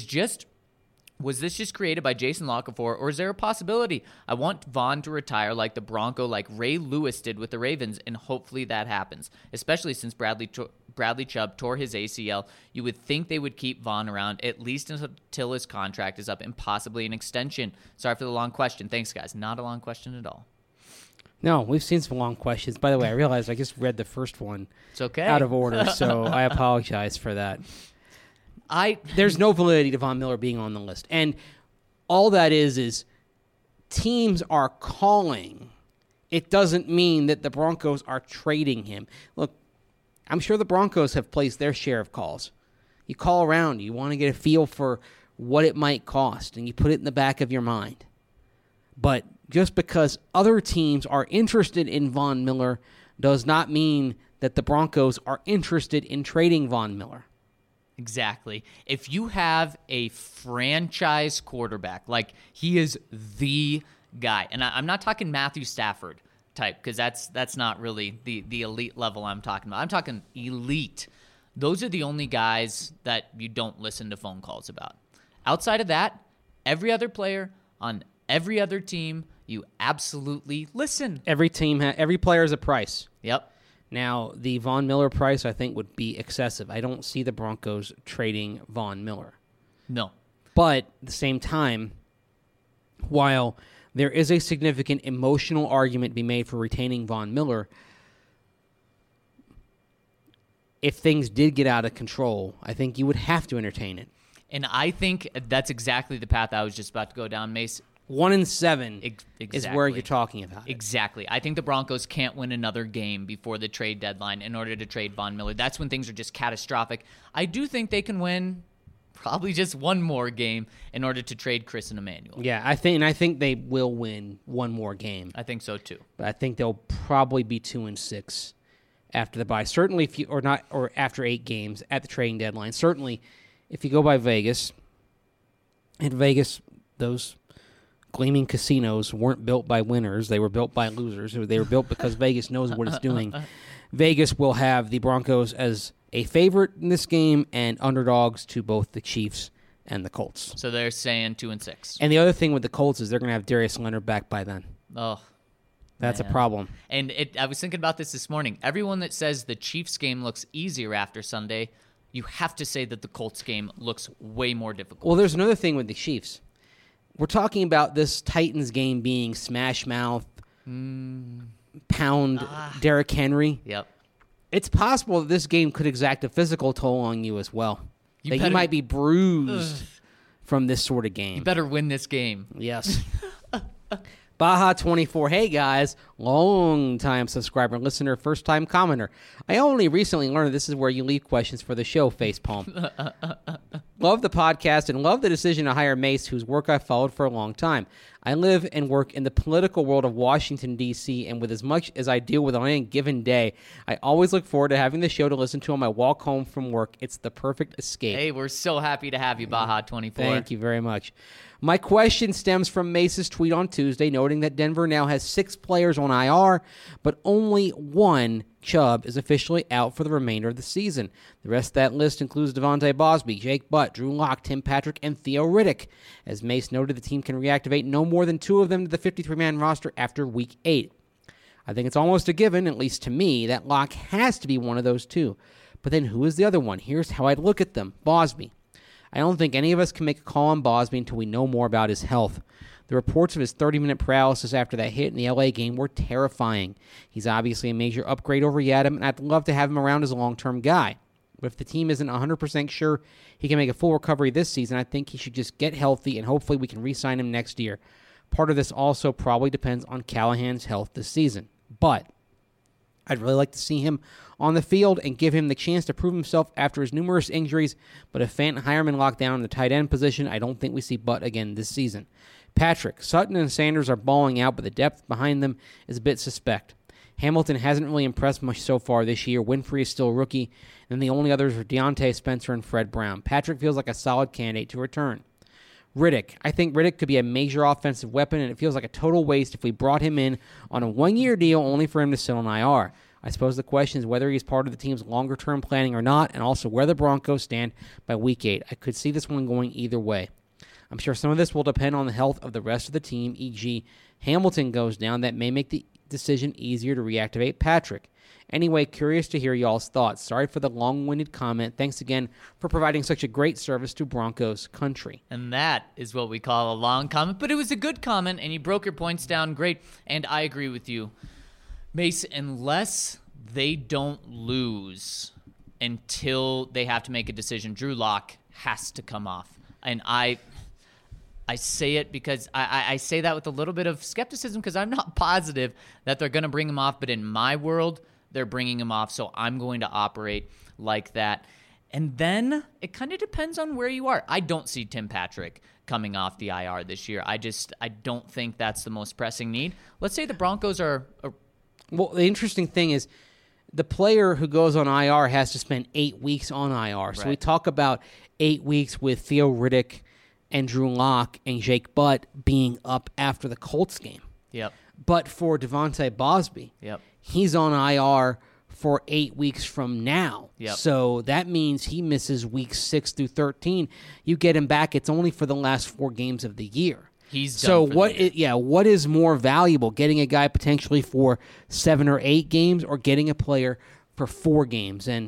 Was this just created by Jason Lockefor, or is there a possibility? I want Von to retire like the Bronco, like Ray Lewis did with the Ravens, and hopefully that happens, especially since Bradley Chubb tore his ACL. You would think they would keep Von around at least until his contract is up and possibly an extension. Sorry for the long question. Thanks, guys. Not a long question at all. No, we've seen some long questions. By the way, I realized I just read the first one It's okay. out of order, so I apologize for that. There's no validity to Von Miller being on the list. And all that is teams are calling. It doesn't mean that the Broncos are trading him. Look, I'm sure the Broncos have placed their share of calls. You call around. You want to get a feel for what it might cost, and you put it in the back of your mind. But just because other teams are interested in Von Miller does not mean that the Broncos are interested in trading Von Miller. Exactly. If you have a franchise quarterback, like he is the guy, and I'm not talking Matthew Stafford type, because that's not really the elite level I'm talking about. I'm talking elite. Those are the only guys that you don't listen to phone calls about. Outside of that, every other player on every other team, you absolutely listen. Every player is a price. Yep. Now, the Von Miller price, I think, would be excessive. I don't see the Broncos trading Von Miller. No. But at the same time, while there is a significant emotional argument to be made for retaining Von Miller, if things did get out of control, I think you would have to entertain it. And I think that's exactly the path I was just about to go down, Mace. 1-7 is where you're talking about. Exactly. I think the Broncos can't win another game before the trade deadline in order to trade Von Miller. That's when things are just catastrophic. I do think they can win probably just one more game in order to trade Chris and Emmanuel. Yeah, I think they will win one more game. I think so too. But I think they'll probably be 2-6 after the bye. Certainly, or after 8 games at the trading deadline. Certainly, if you go by Vegas, in Vegas, those gleaming casinos weren't built by winners. They were built by losers. They were built because Vegas knows what it's doing. Vegas will have the Broncos as a favorite in this game and underdogs to both the Chiefs and the Colts. So they're saying 2-6. And the other thing with the Colts is they're going to have Darius Leonard back by then. Oh, that's man. a problem. And I was thinking about this morning. Everyone that says the Chiefs game looks easier after Sunday, you have to say that the Colts game looks way more difficult. Well, there's another thing with the Chiefs. We're talking about this Titans game being smash mouth, pound Derrick Henry. Yep. It's possible that this game could exact a physical toll on you as well. You might be bruised from this sort of game. You better win this game. Yes. Baja24, hey guys, long-time subscriber, listener, first-time commenter. I only recently learned this is where you leave questions for the show, facepalm. Love the podcast and love the decision to hire Mace, whose work I've followed for a long time. I live and work in the political world of Washington, D.C., and with as much as I deal with on any given day, I always look forward to having the show to listen to on my walk home from work. It's the perfect escape. Hey, we're so happy to have you, Baja24. Thank you very much. My question stems from Mace's tweet on Tuesday, noting that Denver now has 6 players on IR, but only one, Chubb, is officially out for the remainder of the season. The rest of that list includes Devontae Bosby, Jake Butt, Drew Lock, Tim Patrick, and Theo Riddick. As Mace noted, the team can reactivate no more than 2 of them to the 53-man roster after Week 8. I think it's almost a given, at least to me, that Lock has to be one of those 2. But then who is the other one? Here's how I'd look at them. Bosby. I don't think any of us can make a call on Bosby until we know more about his health. The reports of his 30-minute paralysis after that hit in the LA game were terrifying. He's obviously a major upgrade over Yadam, and I'd love to have him around as a long-term guy. But if the team isn't 100% sure he can make a full recovery this season, I think he should just get healthy, and hopefully we can re-sign him next year. Part of this also probably depends on Callahan's health this season. But I'd really like to see him on the field and give him the chance to prove himself after his numerous injuries. But if Fant and Hireman lock down in the tight end position, I don't think we see Butt again this season. Patrick, Sutton and Sanders are balling out, but the depth behind them is a bit suspect. Hamilton hasn't really impressed much so far this year. Winfrey is still a rookie, and the only others are Deontay Spencer and Fred Brown. Patrick feels like a solid candidate to return. Riddick. I think Riddick could be a major offensive weapon, and it feels like a total waste if we brought him in on a one-year deal only for him to sit on IR. I suppose the question is whether he's part of the team's longer-term planning or not, and also where the Broncos stand by Week 8. I could see this one going either way. I'm sure some of this will depend on the health of the rest of the team, e.g. Hamilton goes down. That may make the decision easier to reactivate Patrick. Anyway, curious to hear y'all's thoughts. Sorry for the long-winded comment. Thanks again for providing such a great service to Broncos country. And that is what we call a long comment, but it was a good comment, and you broke your points down great, and I agree with you. Mace, unless they don't lose until they have to make a decision, Drew Lock has to come off. And I say it because I say that with a little bit of skepticism because I'm not positive that they're going to bring him off, but in my world, they're bringing him off, so I'm going to operate like that. And then it kind of depends on where you are. I don't see Tim Patrick coming off the IR this year. I don't think that's the most pressing need. Let's say the Broncos are... Well, the interesting thing is the player who goes on IR has to spend 8 weeks on IR. So we talk about 8 weeks with Theo Riddick and Drew Lock and Jake Butt being up after the Colts game. Yep. But for Devontae Bosby, he's on IR for 8 weeks from now. Yep. So that means he misses weeks 6 through 13. You get him back, it's only for the last 4 games of the year. He's done so for what? the year. What is more valuable, getting a guy potentially for 7 or 8 games, or getting a player for 4 games? And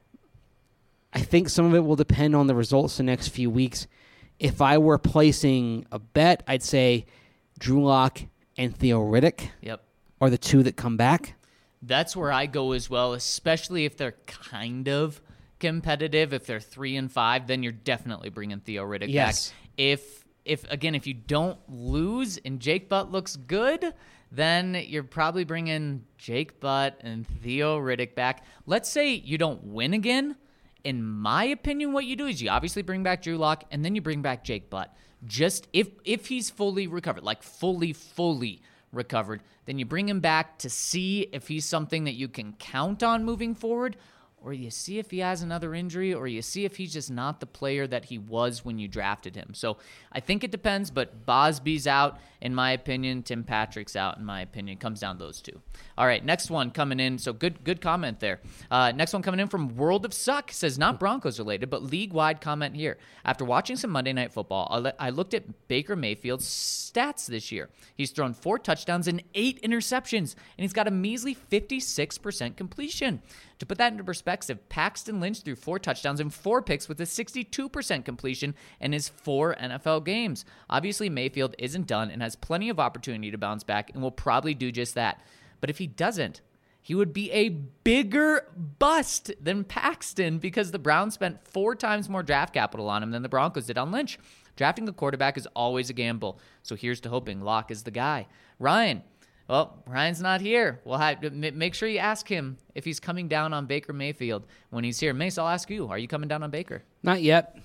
I think some of it will depend on the results the next few weeks. If I were placing a bet, I'd say Drew Lock and Theo Riddick are the two that come back. That's where I go as well, especially if they're kind of competitive. If they're 3-5, then you're definitely bringing Theo Riddick back. If you don't lose and Jake Butt looks good, then you're probably bringing Jake Butt and Theo Riddick back. Let's say you don't win again. In my opinion, what you do is you obviously bring back Drew Lock, and then you bring back Jake Butt. Just if he's fully recovered, like fully recovered, then you bring him back to see if he's something that you can count on moving forward, or you see if he has another injury, or you see if he's just not the player that he was when you drafted him. So I think it depends, but Bosby's out, in my opinion. Tim Patrick's out, in my opinion. It comes down to those two. All right, next one coming in. So good comment there. Next one coming in from World of Suck. Says, not Broncos related, but league-wide comment here. After watching some Monday Night Football, I looked at Baker Mayfield's stats this year. He's thrown 4 touchdowns and 8 interceptions, and he's got a measly 56% completion. To put that into perspective, Paxton Lynch threw 4 touchdowns and 4 picks with a 62% completion in his 4 NFL games. Obviously, Mayfield isn't done and has plenty of opportunity to bounce back and will probably do just that. But if he doesn't, he would be a bigger bust than Paxton because the Browns spent 4 times more draft capital on him than the Broncos did on Lynch. Drafting a quarterback is always a gamble, so here's to hoping Locke is the guy. Ryan. Well, Ryan's not here. Well, make sure you ask him if he's coming down on Baker Mayfield when he's here. Mace, I'll ask you. Are you coming down on Baker? Not yet.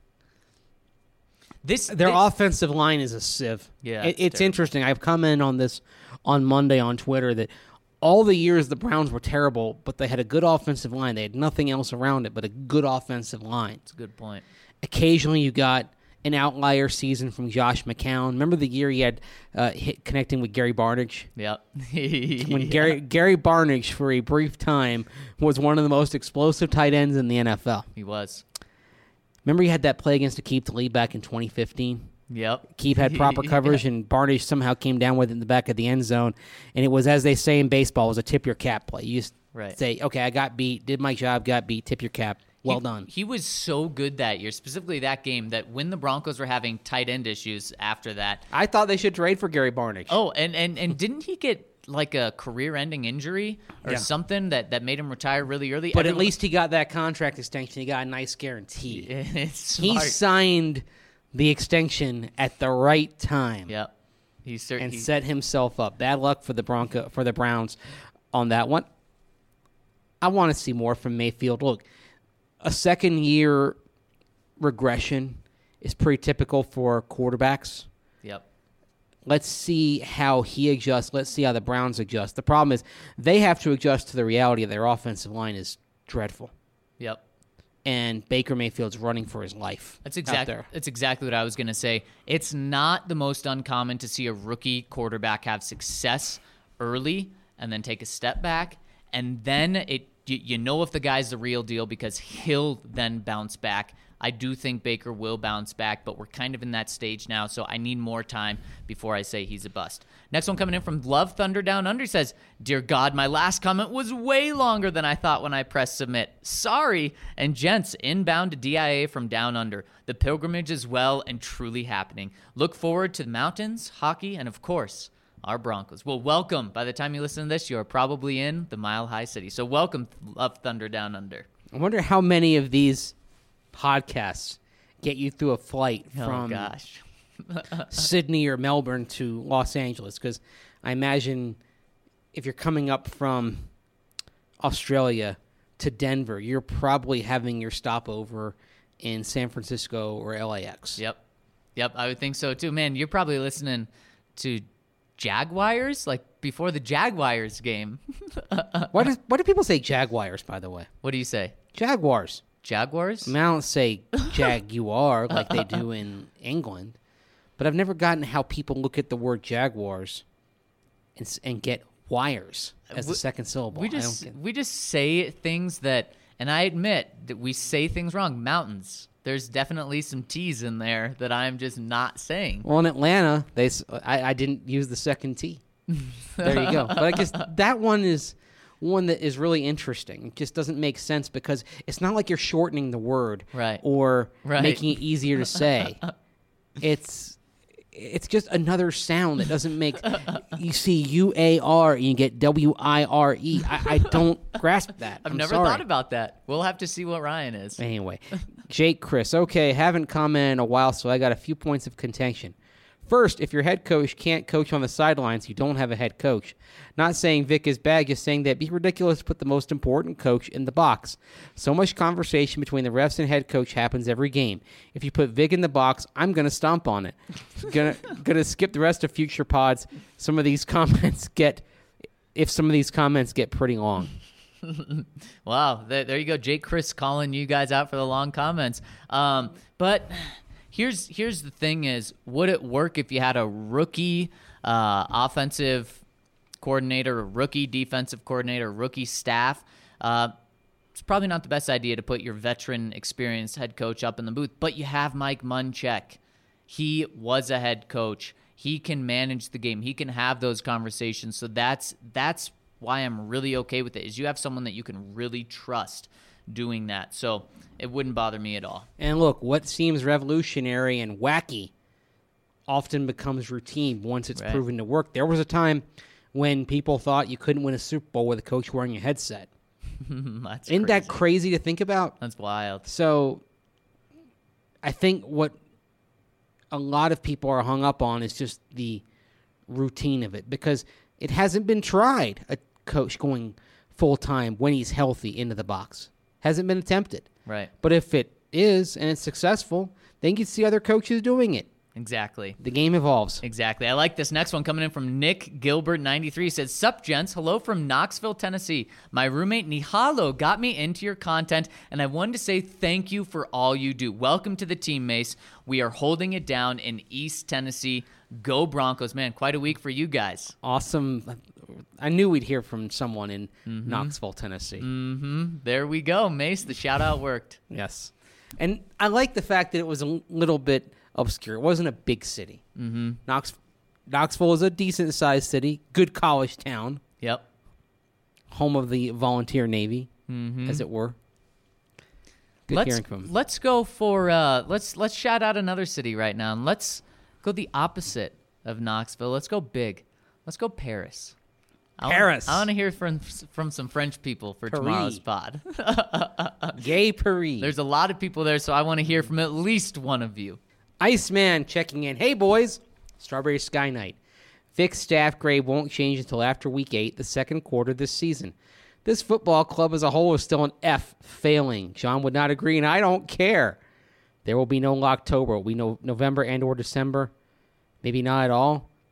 Their offensive line is a sieve. Yeah, it's interesting. I've commented on this on Monday on Twitter that all the years the Browns were terrible, but they had a good offensive line. They had nothing else around it but a good offensive line. That's a good point. Occasionally you got an outlier season from Josh McCown. Remember the year he had connecting with Gary Barnidge? Yep. When Gary Barnidge, for a brief time, was one of the most explosive tight ends in the NFL. He was. Remember he had that play against Aqib Talib back in 2015? Yep. Aqib had proper coverage, and Barnidge somehow came down with it in the back of the end zone. And it was, as they say in baseball, it was a tip-your-cap play. You just say, okay, I got beat, did my job, got beat, tip your cap. Well done. He was so good that year, specifically that game, that when the Broncos were having tight end issues after that. I thought they should trade for Gary Barnidge. Oh, and didn't he get like a career-ending injury or something that made him retire really early? But at least he got that contract extension. He got a nice guarantee. He signed the extension at the right time. Yep. He certainly set himself up. Bad luck for the Browns on that one. I want to see more from Mayfield. Look, a second-year regression is pretty typical for quarterbacks. Yep. Let's see how he adjusts. Let's see how the Browns adjust. The problem is they have to adjust to the reality of their offensive line is dreadful. Yep. And Baker Mayfield's running for his life. That's exactly what I was going to say. It's not the most uncommon to see a rookie quarterback have success early and then take a step back, and then you know if the guy's the real deal because he'll then bounce back. I do think Baker will bounce back, but we're kind of in that stage now, so I need more time before I say he's a bust. Next one coming in from Love Thunder Down Under says, "Dear God, my last comment was way longer than I thought when I pressed submit. Sorry." And gents, inbound to DIA from Down Under. The pilgrimage is well and truly happening. Look forward to the mountains, hockey, and of course, our Broncos. Well, welcome. By the time you listen to this, you are probably in the Mile High City. So welcome, Love Thunder Down Under. I wonder how many of these podcasts get you through a flight from Sydney or Melbourne to Los Angeles, because I imagine if you're coming up from Australia to Denver, you're probably having your stopover in San Francisco or LAX. Yep, I would think so too. Man, you're probably listening to Jaguars, like before the Jaguars game. Why do people say Jaguars, by the way? What do you say? Jaguars. Jaguars? I mean, I don't say Jaguar like they do in England, but I've never gotten how people look at the word Jaguars and get wires as the second syllable. We just say things that, and I admit that we say things wrong. Mountains. There's definitely some T's in there that I'm just not saying. Well, in Atlanta, I didn't use the second T. There you go. But I guess that one is one that is really interesting. It just doesn't make sense because it's not like you're shortening the word or making it easier to say. It's just another sound that doesn't make. You see UAR and you get WIRE. I don't grasp that. I've never thought about that. We'll have to see what Ryan is. Anyway, Jake Chris. Okay, haven't commented in a while, so I got a few points of contention. First, if your head coach can't coach on the sidelines, you don't have a head coach. Not saying Vic is bad, just saying that it'd be ridiculous to put the most important coach in the box. So much conversation between the refs and head coach happens every game. If you put Vic in the box, I'm going to stomp on it. Gonna skip the rest of future pods. Some of these comments get pretty long. Wow, there you go. Jake Chris calling you guys out for the long comments. But here's the thing is, would it work if you had a rookie offensive coordinator, a rookie defensive coordinator, rookie staff? It's probably not the best idea to put your veteran, experienced head coach up in the booth, but you have Mike Munchak. He was a head coach. He can manage the game. He can have those conversations. So that's why I'm really okay with it, is you have someone that you can really trust doing that. So it wouldn't bother me at all. And look, what seems revolutionary and wacky often becomes routine once it's proven to work. There was a time when people thought you couldn't win a Super Bowl with a coach wearing a headset. Isn't that crazy to think about? That's wild. So I think what a lot of people are hung up on is just the routine of it, because it hasn't been tried, a coach going full-time when he's healthy into the box. Hasn't been attempted. Right. But if it is and it's successful, then you see other coaches doing it. Exactly. The game evolves. Exactly. I like this next one coming in from Nick Gilbert 93. Says, "Sup, gents. Hello from Knoxville, Tennessee. My roommate Nihalo got me into your content, and I wanted to say thank you for all you do. Welcome to the team, Mace. We are holding it down in East Tennessee. Go Broncos." Man, quite a week for you guys. Awesome. I knew we'd hear from someone in Knoxville, Tennessee. There we go, Mace. The shout-out worked. Yes. And I like the fact that it was a little bit obscure. It wasn't a big city. Knoxville is a decent-sized city, good college town. Yep. Home of the volunteer Navy, as it were. Good hearing from him. Let's go for let's shout out another city right now, and let's go the opposite of Knoxville. Let's go big. Let's go Paris. I want to hear from some French people for tomorrow's pod. Gay Paris. There's a lot of people there, so I want to hear from at least one of you. Iceman checking in. Hey, boys. Strawberry Sky Night. Vic's staff grade won't change until after Week 8, the second quarter this season. This football club as a whole is still an F, failing. John would not agree, and I don't care. There will be no Locktober. It will be no November and or December. Maybe not at all.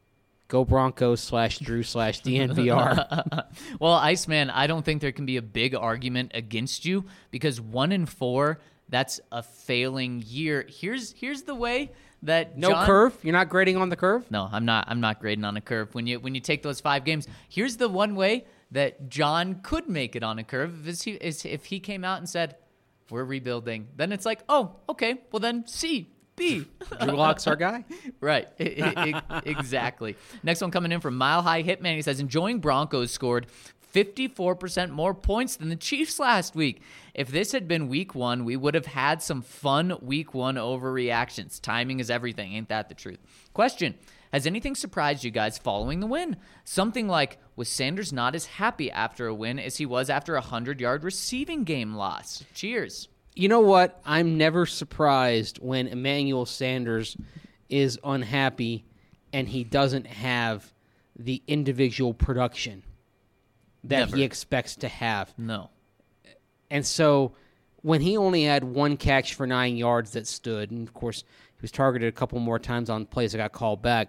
Go Broncos /Drew/DNVR. Well, Iceman, I don't think there can be a big argument against you because 1-4, that's a failing year. Here's the way that No John, curve? You're not grading on the curve? No, I'm not grading on a curve. When you take those 5 games, here's the one way that John could make it on a curve is if he came out and said, "We're rebuilding." Then it's like, "Oh, okay. Well, then C, B." Drew Lock's our guy? Right. Exactly. Next one coming in from Mile High Hitman. He says, enjoying Broncos scored 54% more points than the Chiefs last week. If this had been week 1, we would have had some fun week 1 overreactions. Timing is everything. Ain't that the truth? Question. Has anything surprised you guys following the win? Something like, was Sanders not as happy after a win as he was after a 100-yard receiving game loss? Cheers. You know what? I'm never surprised when Emmanuel Sanders is unhappy and he doesn't have the individual production that Never. he expects to have. No. And so when he only had 1 catch for 9 yards that stood, and of course he was targeted a couple more times on plays that got called back,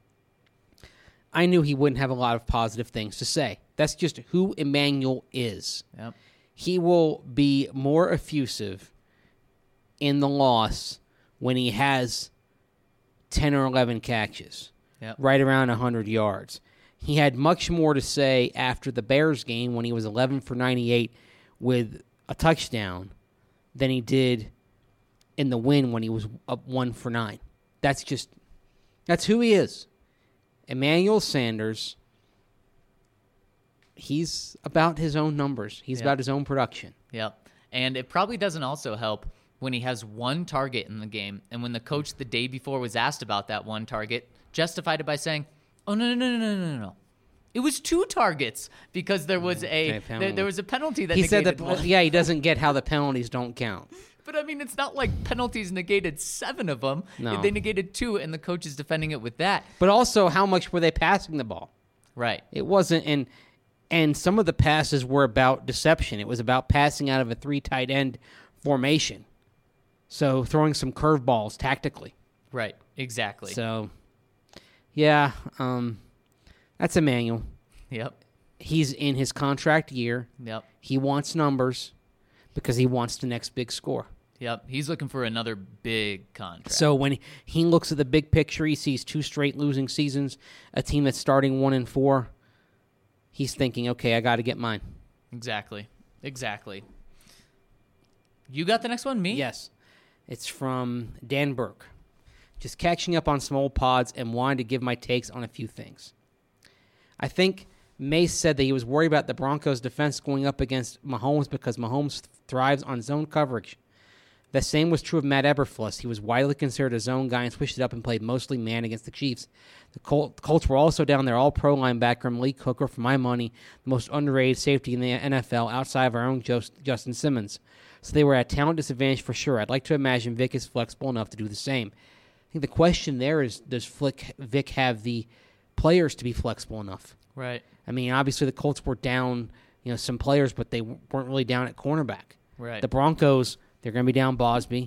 I knew he wouldn't have a lot of positive things to say. That's just who Emmanuel is. Yep. He will be more effusive in the loss when he has 10 or 11 catches, Yep. right around 100 yards. He had much more to say after the Bears game when he was 11 for 98 with a touchdown than he did in the win when he was up 1 for 9. That's who he is. Emmanuel Sanders, he's about his own numbers. He's about his own production. Yep. And it probably doesn't also help when he has 1 target in the game. And when the coach the day before was asked about that 1 target, justified it by saying, "Oh, no. It was 2 targets because there was there was a penalty that He said negated that, one." he doesn't get how the penalties don't count. But, I mean, it's not like penalties negated 7 of them. No. They negated 2, and the coach is defending it with that. But also, how much were they passing the ball? Right. It wasn't, and some of the passes were about deception. It was about passing out of a 3 tight end formation. So throwing some curveballs tactically. Right. Exactly. So, yeah, that's Emmanuel. Yep. He's in his contract year. Yep. He wants numbers because he wants the next big score. Yep. He's looking for another big contract. So when he looks at the big picture, he sees 2 straight losing seasons, a team that's starting 1-4. He's thinking, okay, I got to get mine. Exactly. You got the next one? Me? Yes. It's from Dan Burke. Just catching up on some old pods and wanted to give my takes on a few things. I think Mace said that he was worried about the Broncos' defense going up against Mahomes because Mahomes thrives on zone coverage. The same was true of Matt Eberflus. He was widely considered a zone guy and switched it up and played mostly man against the Chiefs. The Colts were also down their all-pro linebacker, Malik Hooker, for my money, the most underrated safety in the NFL outside of our own Justin Simmons. So they were at talent disadvantage for sure. I'd like to imagine Vic is flexible enough to do the same. I think the question there is, does Vic have the players to be flexible enough? Right. I mean, obviously the Colts were down, some players, but they weren't really down at cornerback. Right. The Broncos, they're going to be down Bosby.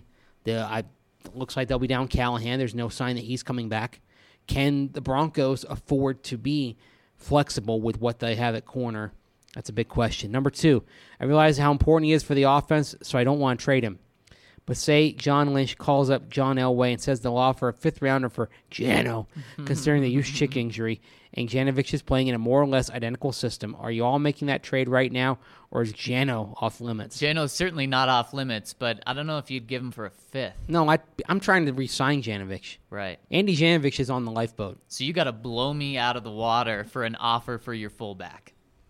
Looks like they'll be down Callahan. There's no sign that he's coming back. Can the Broncos afford to be flexible with what they have at corner? That's a big question. Number 2, I realize how important he is for the offense, so I don't want to trade him. But say John Lynch calls up John Elway and says they'll offer a 5th-rounder for Jano, considering the Juszczyk injury, and Janovich is playing in a more or less identical system. Are you all making that trade right now, or is Jano off limits? Jano's certainly not off limits, but I don't know if you'd give him for a 5th. No, I'm trying to re-sign Janovich. Right. Andy Janovich is on the lifeboat. So you got to blow me out of the water for an offer for your fullback.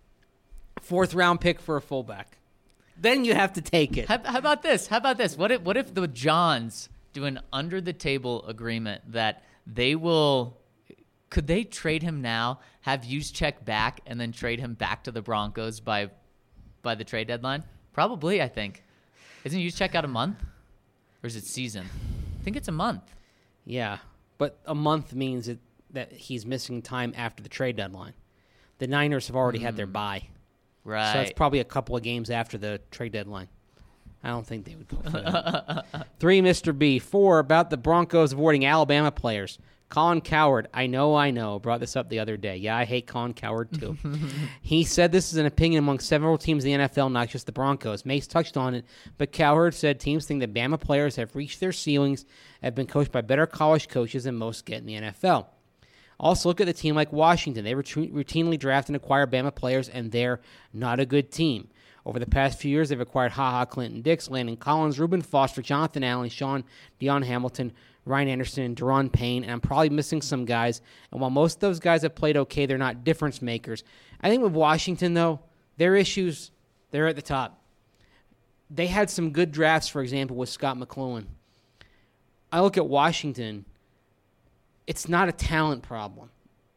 4th-round pick for a fullback. Then you have to take it. How about this? What if the Johns do an under-the-table agreement that they will... Could they trade him now, have Juszczyk back, and then trade him back to the Broncos by the trade deadline? Probably, I think. Isn't Juszczyk out a month? Or is it season? I think it's a month. Yeah, but a month means that he's missing time after the trade deadline. The Niners have already had their bye. Right. So it's probably a couple of games after the trade deadline. I don't think they would go for that. 3, Mr. B. 4, about the Broncos avoiding Alabama players. Colin Cowherd, I know, brought this up the other day. Yeah, I hate Colin Cowherd too. He said this is an opinion among several teams in the NFL, not just the Broncos. Mace touched on it, but Cowherd said teams think that Bama players have reached their ceilings, have been coached by better college coaches than most get in the NFL. Also, look at the team like Washington. They routinely draft and acquire Bama players, and they're not a good team. Over the past few years, they've acquired HaHa, Clinton Dix, Landon Collins, Reuben Foster, Jonathan Allen, Sean Deion Hamilton, Ryan Anderson, Deron Payne, and I'm probably missing some guys. And while most of those guys have played okay, they're not difference makers. I think with Washington, though, their issues, they're at the top. They had some good drafts, for example, with Scott McCloughan. I look at Washington, it's not a talent problem.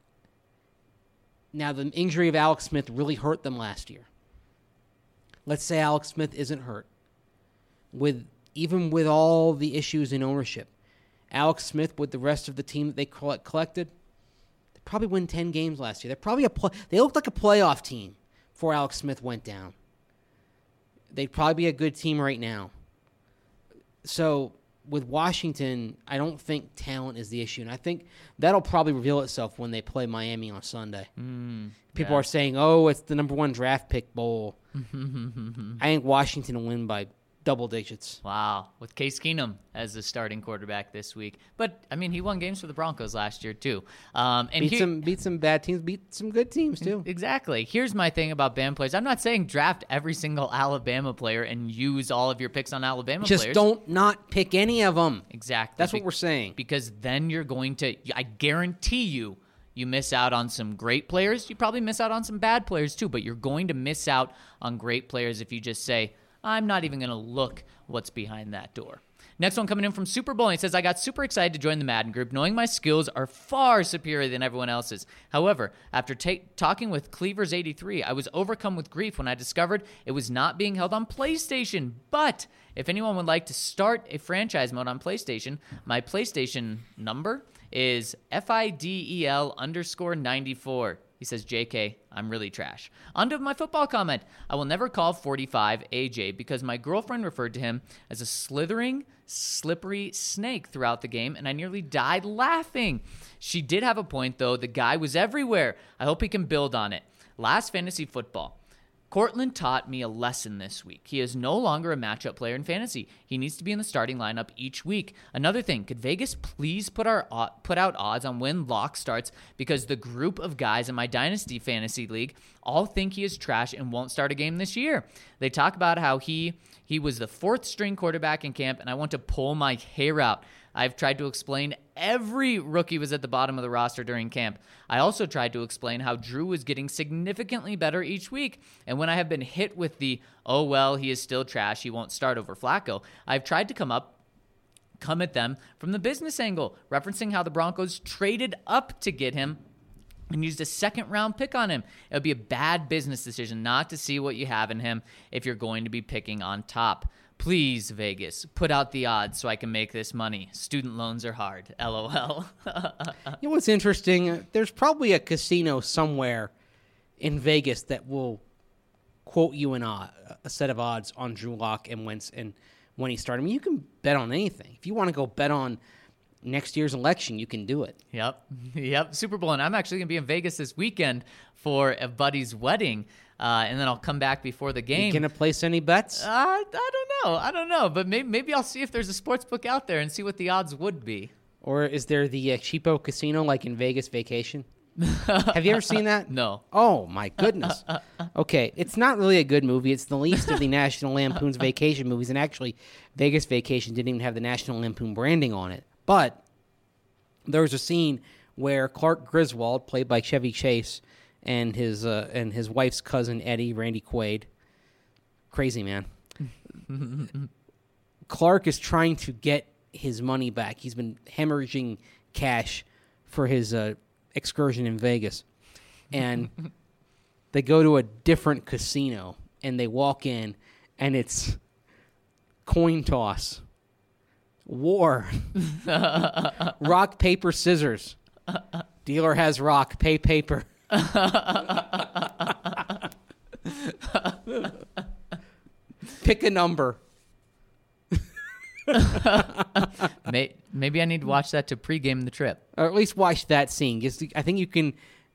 Now, the injury of Alex Smith really hurt them last year. Let's say Alex Smith isn't hurt. Even with all the issues in ownership, Alex Smith with the rest of the team that they collected, they probably win 10 games last year. They looked like a playoff team before Alex Smith went down. They'd probably be a good team right now. So with Washington, I don't think talent is the issue, and I think that'll probably reveal itself when they play Miami on Sunday. People are saying, it's the number 1 draft pick bowl. I think Washington will win by double digits. Wow, with Case Keenum as the starting quarterback this week. But, I mean, he won games for the Broncos last year, too. And beat some bad teams, beat some good teams, too. Exactly. Here's my thing about Bama players. I'm not saying draft every single Alabama player and use all of your picks on Alabama players. Just don't not pick any of them. Exactly. That's what we're saying. Because then you're going to, I guarantee you miss out on some great players. You probably miss out on some bad players, too. But you're going to miss out on great players if you just say, I'm not even going to look what's behind that door. Next one coming in from Super Bowl. He says, I got super excited to join the Madden group, knowing my skills are far superior than everyone else's. However, after talking with Cleavers83, I was overcome with grief when I discovered it was not being held on PlayStation. But if anyone would like to start a franchise mode on PlayStation, my PlayStation number is FIDEL_94. He says, JK, I'm really trash. On to my football comment. I will never call 45 AJ because my girlfriend referred to him as a slithering, slippery snake throughout the game, and I nearly died laughing. She did have a point, though. The guy was everywhere. I hope he can build on it. Last fantasy football. Cortland taught me a lesson this week. He is no longer a matchup player in fantasy. He needs to be in the starting lineup each week. Another thing, could Vegas please put out odds on when Locke starts? Because the group of guys in my Dynasty Fantasy League all think he is trash and won't start a game this year. They talk about how he was the 4th string quarterback in camp, and I want to pull my hair out. I've tried to explain every rookie was at the bottom of the roster during camp. I also tried to explain how Drew was getting significantly better each week. And when I have been hit with the, he is still trash, he won't start over Flacco, I've tried to come at them from the business angle, referencing how the Broncos traded up to get him and used a 2nd-round pick on him. It would be a bad business decision not to see what you have in him if you're going to be picking on top. Please, Vegas, put out the odds so I can make this money. Student loans are hard. LOL. You know what's interesting? There's probably a casino somewhere in Vegas that will quote you a set of odds on Drew Lock and Wentz and when he started. I mean, you can bet on anything. If you want to go bet on next year's election, you can do it. Yep. Super Bowl. And I'm actually going to be in Vegas this weekend for a buddy's wedding. And then I'll come back before the game. You going to place any bets? I don't know. But maybe I'll see if there's a sports book out there and see what the odds would be. Or is there the cheapo casino like in Vegas Vacation? Have you ever seen that? No. Oh, my goodness. Okay, it's not really a good movie. It's the least of the National Lampoon's vacation movies. And actually, Vegas Vacation didn't even have the National Lampoon branding on it. But there was a scene where Clark Griswold, played by Chevy Chase, and his wife's cousin Eddie, Randy Quaid, crazy man. Clark is trying to get his money back. He's been hemorrhaging cash for his excursion in Vegas, and they go to a different casino, and they walk in, and it's coin toss, war, rock, paper, scissors. Dealer has rock, pay paper. Pick a number. Maybe I need to watch that to pregame the trip. Or at least watch that scene. I think you can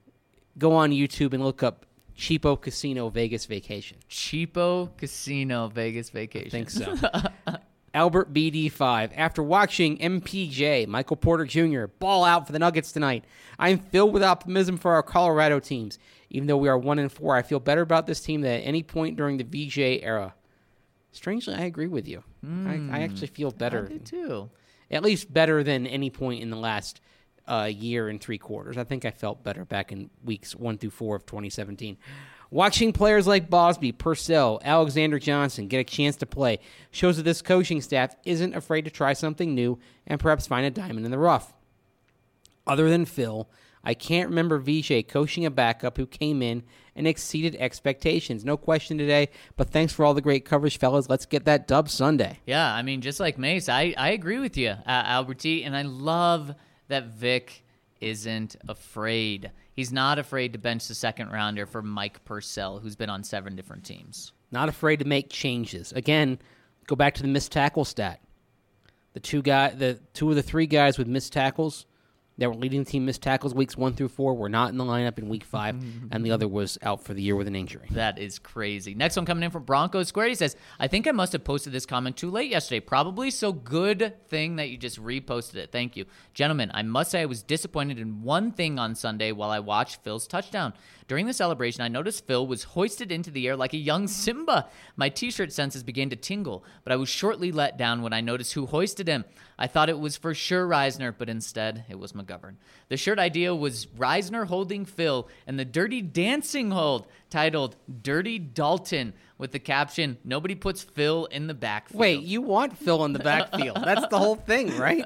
go on YouTube and look up Cheapo Casino Vegas Vacation. Cheapo Casino Vegas Vacation. I think so. Albert BD5. After watching MPJ, Michael Porter Jr., ball out for the Nuggets tonight, I'm filled with optimism for our Colorado teams. Even though we are 1-4, I feel better about this team than at any point during the VJ era. Strangely, I agree with you. I actually feel better. I do too. At least better than any point in the last year and 3 quarters. I think I felt better back in weeks 1 through 4 of 2017. Watching players like Bosby, Purcell, Alexander Johnson get a chance to play shows that this coaching staff isn't afraid to try something new and perhaps find a diamond in the rough. Other than Phil, I can't remember Vijay coaching a backup who came in and exceeded expectations. No question today, but thanks for all the great coverage, fellas. Let's get that dub Sunday. Yeah, I mean, just like Mace, I agree with you, Albert T., and I love that Vic isn't afraid. He's not afraid to bench the second rounder for Mike Purcell, who's been on 7 different teams. Not afraid to make changes. Again, go back to the missed tackle stat. The two of the 3 guys with missed tackles that were leading the team missed tackles weeks 1 through 4 were not in the lineup in week 5, and the other was out for the year with an injury. That is crazy. Next one coming in from Broncos Square. He says, I think I must have posted this comment too late yesterday. Probably, so good thing that you just reposted it. Thank you. Gentlemen, I must say I was disappointed in one thing on Sunday while I watched Phil's touchdown. During the celebration, I noticed Phil was hoisted into the air like a young Simba. My t-shirt senses began to tingle, but I was shortly let down when I noticed who hoisted him. I thought it was for sure Reisner, but instead it was McGovern. The shirt idea was Reisner holding Phil and the Dirty Dancing hold titled Dirty Dalton with the caption, nobody puts Phil in the backfield. Wait, you want Phil in the backfield. That's the whole thing, right?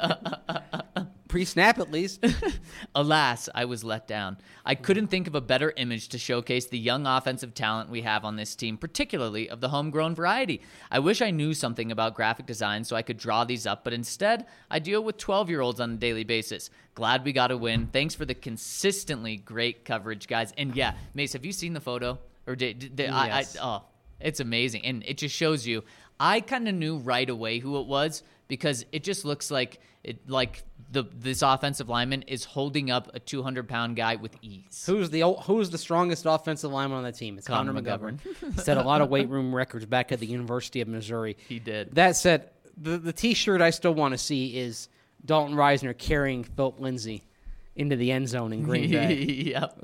Pre-snap, at least. Alas, I was let down. I couldn't think of a better image to showcase the young offensive talent we have on this team, particularly of the homegrown variety. I wish I knew something about graphic design so I could draw these up, but instead, I deal with 12-year-olds on a daily basis. Glad we got a win. Thanks for the consistently great coverage, guys. And yeah, Mace, have you seen the photo? Or Yes. It's amazing. And it just shows you, I kind of knew right away who it was because it just looks like this offensive lineman is holding up a 200-pound guy with ease. Who's the strongest offensive lineman on the team? It's Connor McGovern. Set a lot of weight room records back at the University of Missouri. He did. That said, the T-shirt I still want to see is Dalton Reisner carrying Philip Lindsay into the end zone in Green Bay. Yep.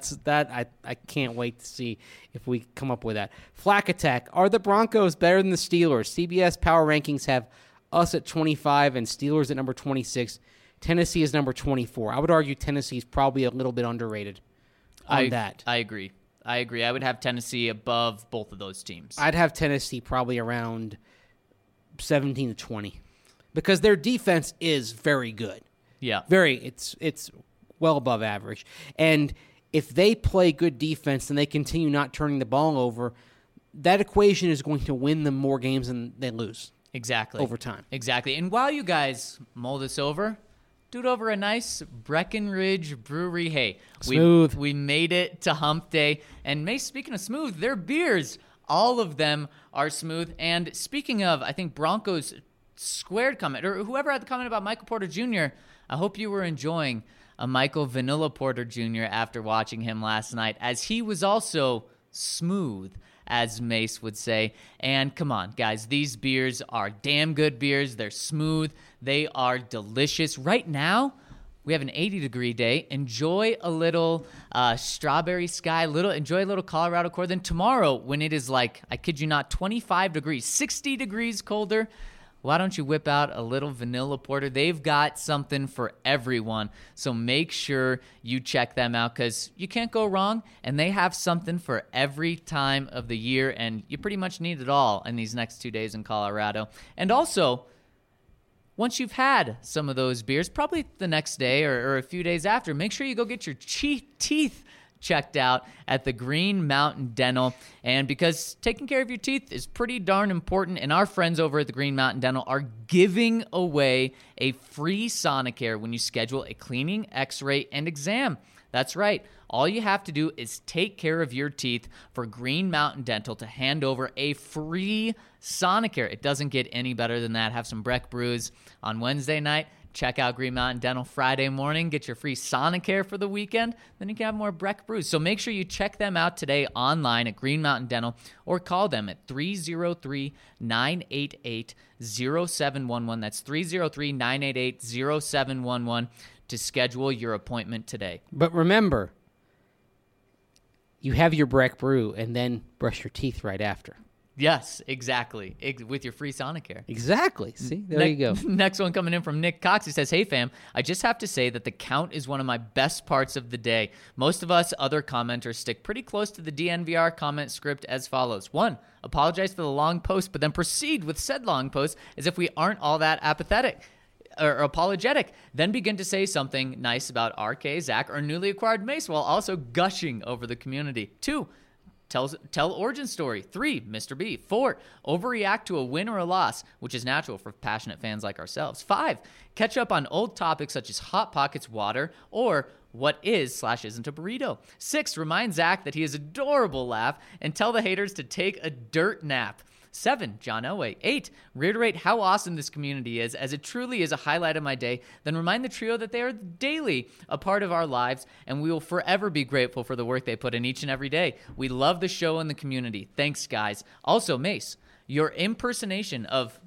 I can't wait to see if we come up with that. Flack Attack. Are the Broncos better than the Steelers? CBS Power Rankings have us at 25 and Steelers at number 26. Tennessee is number 24. I would argue Tennessee is probably a little bit underrated on that. I agree. I would have Tennessee above both of those teams. I'd have Tennessee probably around 17 to 20 because their defense is very good. Yeah. It's well above average. And if they play good defense and they continue not turning the ball over, that equation is going to win them more games than they lose. Exactly. Over time. Exactly. And while you guys mull this over, do it over a nice Breckenridge Brewery. Hey, smooth. We made it to Hump Day. And Mace, speaking of smooth, their beers, all of them are smooth. And speaking of, I think Broncos squared comment, or whoever had the comment about Michael Porter Jr., I hope you were enjoying a Michael Vanilla Porter Jr. after watching him last night, as he was also smooth, as Mace would say. And come on, guys, these beers are damn good beers. They're smooth. They are delicious. Right now, we have an 80-degree day. Enjoy a little strawberry sky. Enjoy a little Colorado core. Then tomorrow, when it is like, I kid you not, 25 degrees, 60 degrees colder, why don't you whip out a little vanilla porter? They've got something for everyone. So make sure you check them out because you can't go wrong. And they have something for every time of the year. And you pretty much need it all in these next 2 days in Colorado. And also, once you've had some of those beers, probably the next day or a few days after, make sure you go get your teeth checked out at the Green Mountain Dental. And because taking care of your teeth is pretty darn important, and our friends over at the Green Mountain Dental are giving away a free Sonicare when you schedule a cleaning, x-ray, and exam. That's right. All you have to do is take care of your teeth for Green Mountain Dental to hand over a free Sonicare. It doesn't get any better than that. Have some Breck Brews on Wednesday night. Check out Green Mountain Dental Friday morning. Get your free Sonicare for the weekend. Then you can have more Breck Brews. So make sure you check them out today online at Green Mountain Dental or call them at 303-988-0711. That's 303-988-0711 to schedule your appointment today. But remember, you have your Breck Brew and then brush your teeth right after. Yes, exactly. With your free Sonicare. Exactly. See, there you go. Next one coming in from Nick Cox. He says, "Hey fam, I just have to say that the count is one of my best parts of the day. Most of us other commenters stick pretty close to the DNVR comment script as follows. 1, apologize for the long post, but then proceed with said long post as if we aren't all that apathetic or apologetic. Then begin to say something nice about RK, Zach, or newly acquired Mace while also gushing over the community. 2, Tell origin story. 3, Mr. B. 4, overreact to a win or a loss, which is natural for passionate fans like ourselves. 5, catch up on old topics such as Hot Pockets water or what is/isn't a burrito. 6, remind Zach that he is adorable laugh and tell the haters to take a dirt nap. 7, John Elway. 8, reiterate how awesome this community is, as it truly is a highlight of my day. Then remind the trio that they are daily a part of our lives, and we will forever be grateful for the work they put in each and every day. We love the show and the community. Thanks, guys. Also, Mace, your impersonation of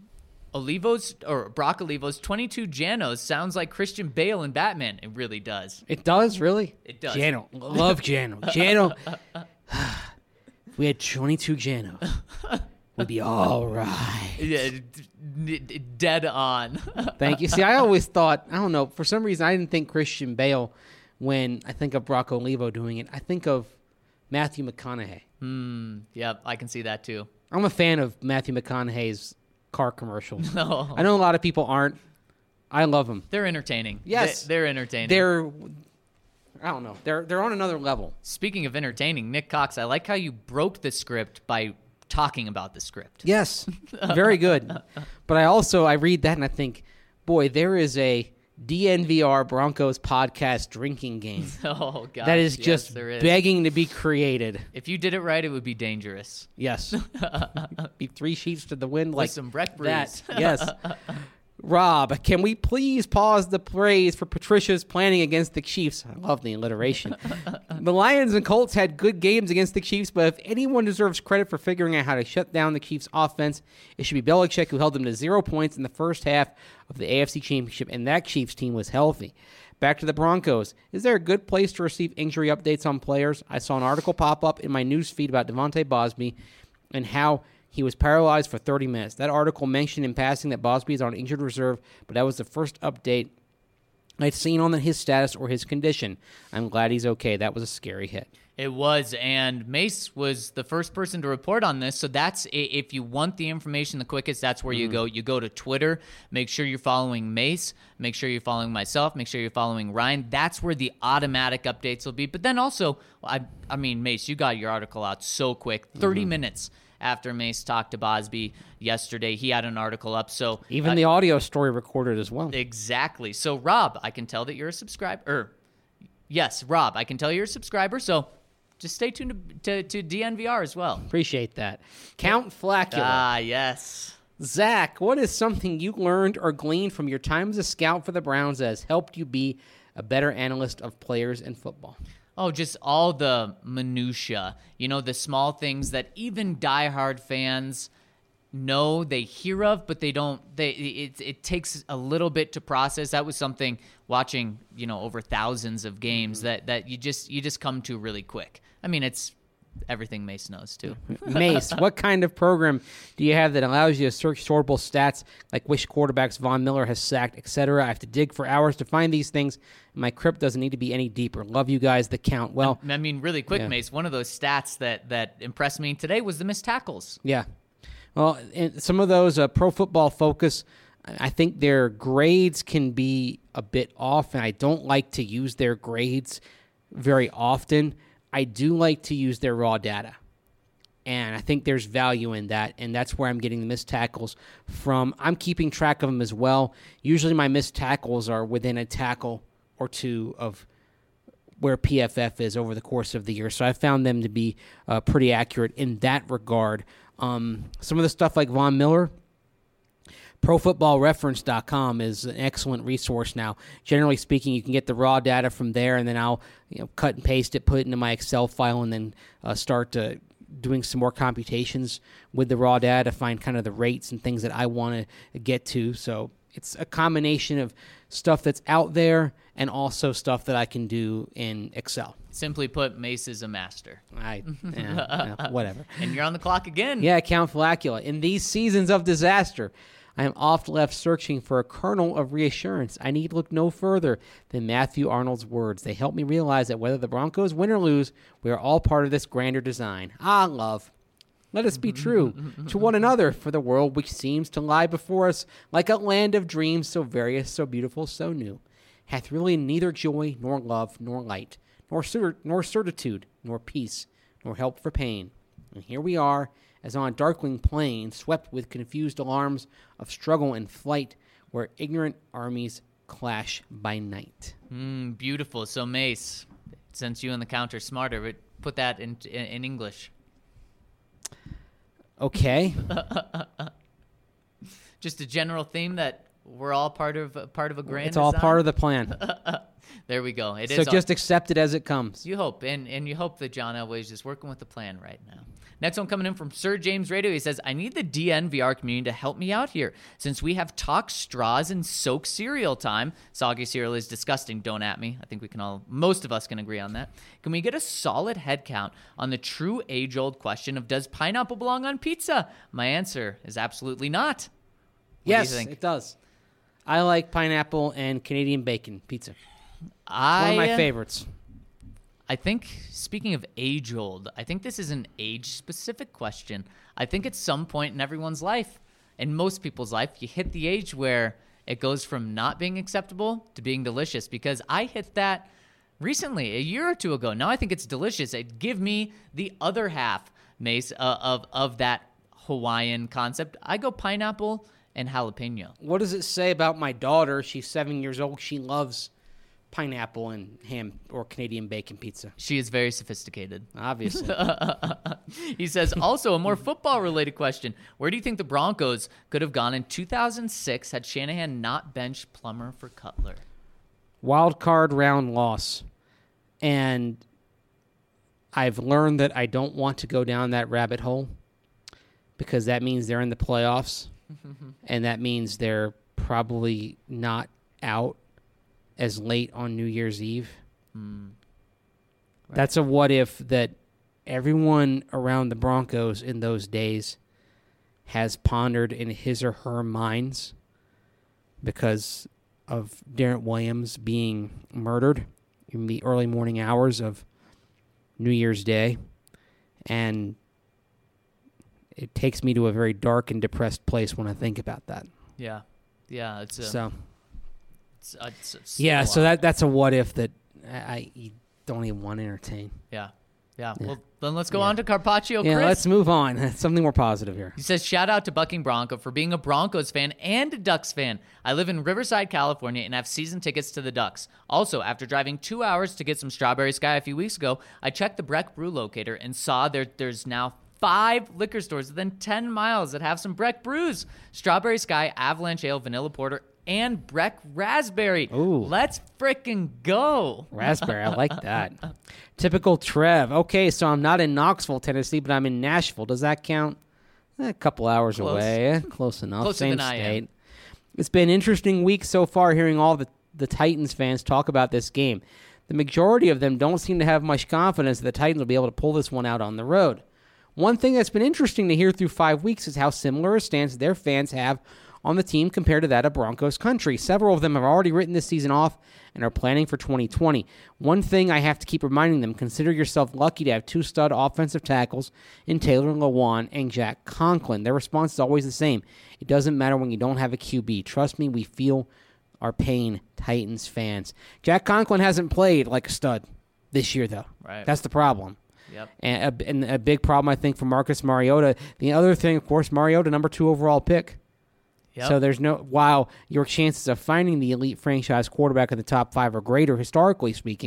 Brock Olivo's 22 Janos sounds like Christian Bale in Batman. It really does. It does, really? It does. Jano. Love Jano. Jano. If we had 22 Janos, we'd be all right. Yeah, dead on. Thank you. See, I always thought, I don't know, for some reason I didn't think Christian Bale when I think of Brock Olivo doing it. I think of Matthew McConaughey. Yeah, I can see that too. I'm a fan of Matthew McConaughey's car commercials. No. I know a lot of people aren't. I love them. They're entertaining. Yes. They're entertaining. I don't know. They're on another level. Speaking of entertaining, Nick Cox, I like how you broke the script by talking about the script. Yes. Very good. But I read that and I think, boy, there is a DNVR Broncos podcast drinking game. Oh, God. That is just begging to be created. If you did it right, it would be dangerous. Yes. Be 3 sheets to the wind like with some Breck Brews. That. Yes. Rob, can we please pause the praise for Patricia's planning against the Chiefs? I love the alliteration. The Lions and Colts had good games against the Chiefs, but if anyone deserves credit for figuring out how to shut down the Chiefs' offense, it should be Belichick, who held them to 0 points in the first half of the AFC Championship, and that Chiefs team was healthy. Back to the Broncos. Is there a good place to receive injury updates on players? I saw an article pop up in my news feed about Devontae Bosby and how he was paralyzed for 30 minutes. That article mentioned in passing that Bosby is on injured reserve, but that was the first update I'd seen on his status or his condition. I'm glad he's okay. That was a scary hit. It was, and Mace was the first person to report on this, so that's, if you want the information the quickest, that's where you go. You go to Twitter, make sure you're following Mace, make sure you're following myself, make sure you're following Ryan. That's where the automatic updates will be. But then also, I mean, Mace, you got your article out so quick, 30 minutes after Mace talked to Bosby yesterday. He had an article up. So even the audio story recorded as well. Exactly. So, Rob, I can tell that you're a subscriber. Yes, Rob, I can tell you're a subscriber. So just stay tuned to DNVR as well. Appreciate that. Count Flacula. Ah, yes. Zach, what is something you learned or gleaned from your time as a scout for the Browns that has helped you be a better analyst of players in football? Oh, just all the minutia. You know, the small things that even diehard fans know, they hear of, but they don't. It takes a little bit to process. That was something watching, over thousands of games that you just come to really quick. I mean, it's everything Mace knows too. Mace, what kind of program do you have that allows you to search sortable stats like which quarterbacks Von Miller has sacked, etc.? I have to dig for hours to find these things. My crypt doesn't need to be any deeper. Love you guys, the count. Well, I mean, really quick, Mace, one of those stats that impressed me today was the missed tackles. Yeah. Well, some of those Pro Football Focus, I think their grades can be a bit off, and I don't like to use their grades very often. I do like to use their raw data, and I think there's value in that, and that's where I'm getting the missed tackles from. I'm keeping track of them as well. Usually my missed tackles are within a tackle or two of where PFF is over the course of the year. So I found them to be pretty accurate in that regard. Some of the stuff like Von Miller, ProFootballReference.com is an excellent resource now. Generally speaking, you can get the raw data from there, and then I'll cut and paste it, put it into my Excel file, and then start doing some more computations with the raw data to find kind of the rates and things that I want to get to. So it's a combination of stuff that's out there and also stuff that I can do in Excel. Simply put, Mace is a master. Whatever. And you're on the clock again. Yeah, Count Flacula. In these seasons of disaster, I am oft left searching for a kernel of reassurance. I need look no further than Matthew Arnold's words. They help me realize that whether the Broncos win or lose, we are all part of this grander design. Ah, love. Let us be true to one another for the world which seems to lie before us like a land of dreams so various, so beautiful, so new, hath really neither joy nor love nor light, nor certitude, nor peace, nor help for pain. And here we are, as on a darkling plain, swept with confused alarms of struggle and flight, where ignorant armies clash by night. Beautiful. So, Mace, since you and the Count are smarter, put that in English. Okay. Just a general theme that we're all part of a grand It's all design? part of the plan. There we go. So just accept it as it comes. You hope, and you hope that John Elway's just working with the plan right now. Next one coming in from Sir James Radio. He says, I need the DNVR community to help me out here. Since we have talk straws and soak cereal time, soggy cereal is disgusting, don't at me. I think most of us can agree on that. Can we get a solid head count on the true age-old question of does pineapple belong on pizza? My answer is absolutely not. What Yes, do you think? it does. I like pineapple and Canadian bacon pizza. One One of my favorites. I think, speaking of age-old, I think this is an age-specific question. I think at some point in everyone's life, in most people's life, you hit the age where it goes from not being acceptable to being delicious, because I hit that recently, a year or two ago. Now I think it's delicious. Give me the other half, Mace, of that Hawaiian concept. I go pineapple and jalapeno. What does it say about my daughter? She's 7 years old. She loves pineapple and ham or Canadian bacon pizza. She is very sophisticated. Obviously. He says, also a more football-related question. Where do you think the Broncos could have gone in 2006 had Shanahan not benched Plummer for Cutler? Wild card round loss. And I've learned that I don't want to go down that rabbit hole because that means they're in the playoffs. And that means they're probably not out as late on New Year's Eve. Right. That's a what if that everyone around the Broncos in those days has pondered in his or her minds because of Darren Williams being murdered in the early morning hours of New Year's Day. And it takes me to a very dark and depressed place when I think about that. Yeah. Yeah. So yeah, so that's a what if that I don't even want to entertain. Yeah. Well, then let's go on to Carpaccio Yeah, Chris. let's move on. Something more positive here. He says, shout out to Bucking Bronco for being a Broncos fan and a Ducks fan. I live in Riverside, California, and have season tickets to the Ducks. Also, after driving 2 hours to get some Strawberry Sky a few weeks ago, I checked the Breck Brew locator and saw there's now 5 liquor stores within 10 miles that have some Breck brews. Strawberry Sky, Avalanche Ale, Vanilla Porter, and Breck Raspberry. Ooh. Let's frickin' go. Raspberry, I like that. Typical Trev. Okay, so I'm not in Knoxville, Tennessee, but I'm in Nashville. Does that count? A couple hours Close. away. Close enough. Closer Same than I state. am. It's been an interesting week so far hearing all the Titans fans talk about this game. The majority of them don't seem to have much confidence that the Titans will be able to pull this one out on the road. One thing that's been interesting to hear through 5 weeks is how similar a stance their fans have on the team compared to that of Broncos country. Several of them have already written this season off and are planning for 2020. One thing I have to keep reminding them, consider yourself lucky to have 2 stud offensive tackles in Taylor Lewan and Jack Conklin. Their response is always the same. It doesn't matter when you don't have a QB. Trust me, we feel our pain, Titans fans. Jack Conklin hasn't played like a stud this year, though. Right. That's the problem. Yep. And a big problem, I think, for Marcus Mariota. The other thing, of course, Mariota, number 2 overall pick. Yep. So there's while your chances of finding the elite franchise quarterback in the top 5 are greater, historically speaking,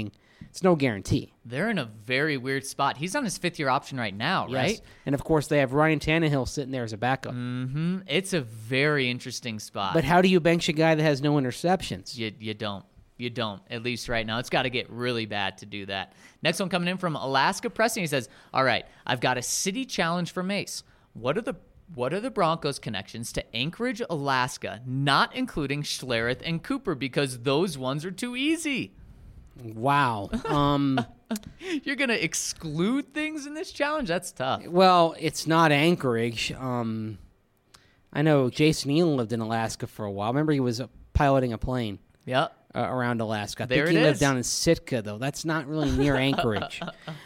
it's no guarantee. They're in a very weird spot. He's on his 5th-year option right now, Yes. right? And of course, they have Ryan Tannehill sitting there as a backup. It's a very interesting spot. But how do you bench a guy that has no interceptions? You don't. You don't, at least right now. It's got to get really bad to do that. Next one coming in from Alaska Preston. He says, all right, I've got a city challenge for Mace. What are the Broncos' connections to Anchorage, Alaska, not including Schlereth and Cooper, because those ones are too easy? Wow. You're going to exclude things in this challenge? That's tough. Well, it's not Anchorage. I know Jason Elam lived in Alaska for a while. Remember, he was piloting a plane Yep. around Alaska. I There think it he lived is. down in Sitka, though. That's not really near Anchorage.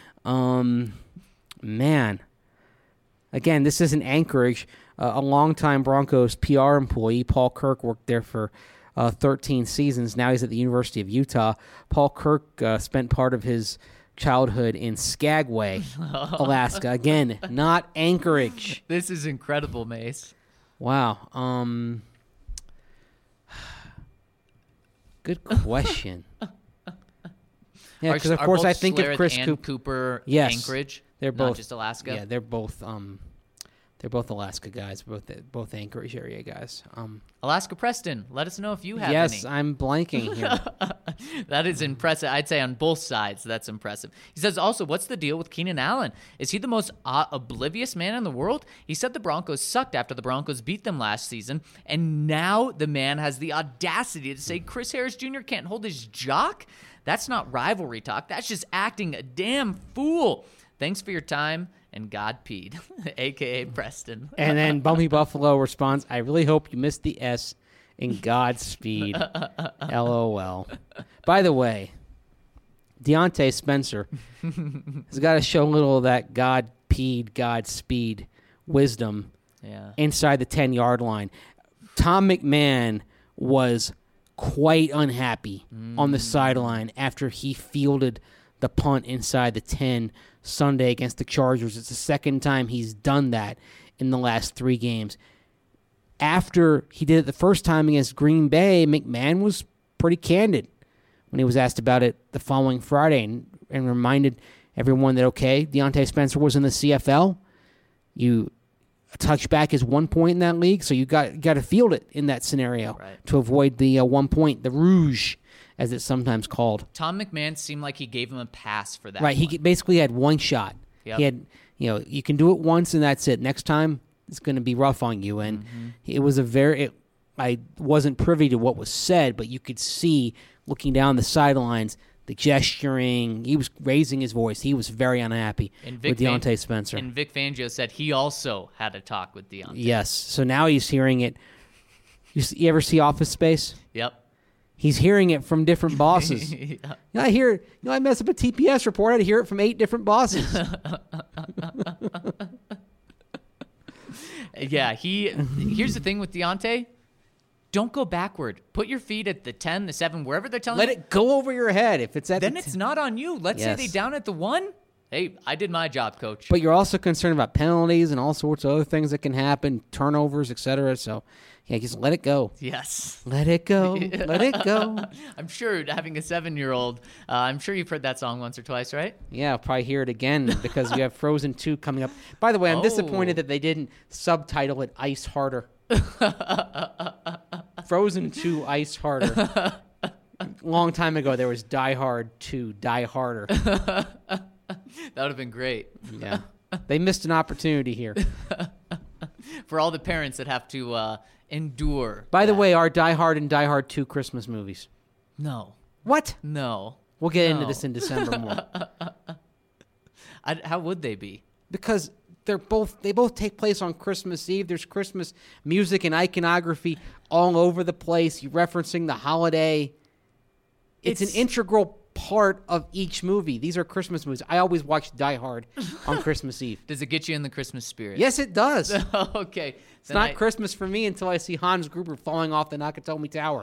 Man. Again, this isn't Anchorage. A longtime Broncos PR employee, Paul Kirk, worked there for 13 seasons. Now he's at the University of Utah. Paul Kirk spent part of his childhood in Skagway, Alaska. Again, not Anchorage. This is incredible, Mace. Wow. Good question. Yeah, because of Are course both I think Schlereth of Chris and Cooper. Cooper Yes, Anchorage, they're not both just Alaska. Yeah, they're both Alaska guys, both Anchorage area guys. Alaska Preston, let us know if you have Yes, any. I'm blanking here. That is impressive. I'd say on both sides, that's impressive. He says also, what's the deal with Keenan Allen? Is he the most oblivious man in the world? He said the Broncos sucked after the Broncos beat them last season, and now the man has the audacity to say Chris Harris Jr. can't hold his jock? That's not rivalry talk. That's just acting a damn fool. Thanks for your time, and Godpeed, a.k.a. Preston. And then Bumpy Buffalo responds, I really hope you missed the S in Godspeed. LOL. By the way, Deontay Spencer has got to show a little of that Godspeed wisdom Yeah. inside the 10-yard line. Tom McMahon was quite unhappy on the sideline after he fielded the punt inside the 10 Sunday against the Chargers. It's the second time he's done that in the last 3 games. After he did it the first time against Green Bay, McMahon was pretty candid when he was asked about it the following Friday and reminded everyone that, okay, Deontay Spencer was in the CFL. A touchback is 1 point in that league, so you got to field it in that scenario to avoid the 1 point, the rouge, as it's sometimes called. Tom McMahon seemed like he gave him a pass for that. Right, he basically had one shot. Yep. He had, you can do it once and that's it. Next time, it's going to be rough on you. And it was I wasn't privy to what was said, but you could see looking down the sidelines, the gesturing. He was raising his voice. He was very unhappy with Deontay Spencer. And Vic Fangio said he also had a talk with Deontay. Yes, so now he's hearing it. You ever see Office Space? Yep. He's hearing it from different bosses. Yeah. I mess up a TPS report. I had to hear it from 8 different bosses. Yeah, here's the thing with Deontay. Don't go backward. Put your feet at the 10, the 7, wherever they're telling Let you. it go over your head. If it's at Then the it's not on you. Let's say Yes. they down at the 1. Hey, I did my job, coach. But you're also concerned about penalties and all sorts of other things that can happen, turnovers, etc. So, yeah, just let it go. Yes. Let it go. Let it go. I'm sure having a 7-year-old, I'm sure you've heard that song once or twice, right? Yeah, I'll probably hear it again because we have Frozen 2 coming up. By the way, I'm disappointed that they didn't subtitle it Ice Harder. Frozen 2 Ice Harder. Long time ago, there was Die Hard 2, Die Harder. That would have been great. Yeah. They missed an opportunity here. For all the parents that have to endure. By the way, are Die Hard and Die Hard 2 Christmas movies? No. What? No. We'll get into No. this in December more. How would they be? Because they both take place on Christmas Eve. There's Christmas music and iconography all over the place. You're referencing the holiday. It's an integral part of each movie. These are Christmas movies. I always watch Die Hard on Christmas Eve. Does it get you in the Christmas spirit? Yes, it does. It's Okay. not Christmas for me until I see Hans Gruber falling off the Nakatomi Tower.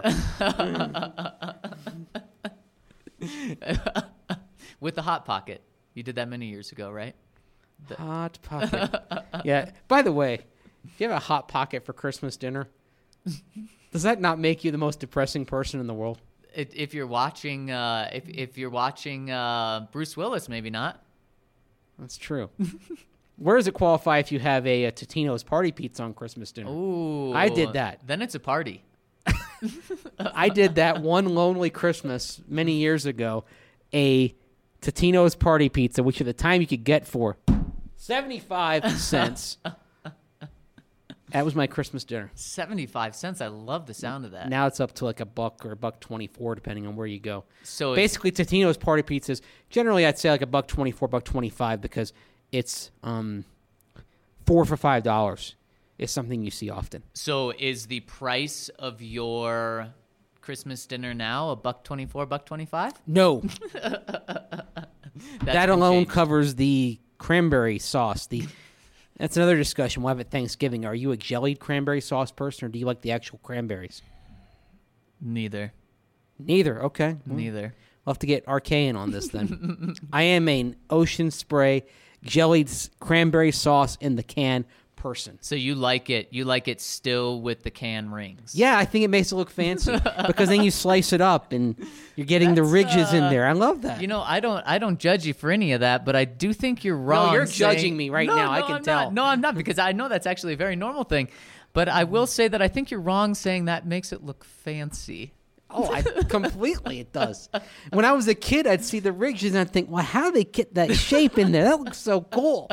With the Hot Pocket. You did that many years ago, right? Hot Pocket. Yeah. By the way, if you have a Hot Pocket for Christmas dinner, does that not make you the most depressing person in the world? If you're watching, if you're watching Bruce Willis, maybe not. That's true. Where does it qualify if you have a Totino's party pizza on Christmas dinner? Ooh, I did that. Then it's a party. I did that one lonely Christmas many years ago. A Totino's party pizza, which at the time you could get for 75 cents. That was my Christmas dinner. 75 cents. I love the sound of that. Now it's up to like $1 or $1.24, depending on where you go. So basically, Totino's party pizzas, generally I'd say like $1.24, $1.25, because it's $4 for $5 is something you see often. So is the price of your Christmas dinner now $1.24, $1.25? No. That alone changed. covers the cranberry sauce. That's another discussion we'll have at Thanksgiving. Are you a jellied cranberry sauce person, or do you like the actual cranberries? Neither. Neither. Okay. Well, Neither. we'll have to get RK in on this then. I am an Ocean Spray jellied cranberry sauce in the can person. So you like it? You like it still with the can rings? Yeah, I think it makes it look fancy because then you slice it up and you're getting the ridges in there. I love that. You know, I don't judge you for any of that, but I do think you're wrong. No, you're saying- judging me right No, now. I no, can I'm tell. Not. No, I'm not, because I know that's actually a very normal thing. But I will say that I think you're wrong saying that makes it look fancy. Oh, completely it does. When I was a kid, I'd see the ridges and I'd think, well, how do they get that shape in there? That looks so cool.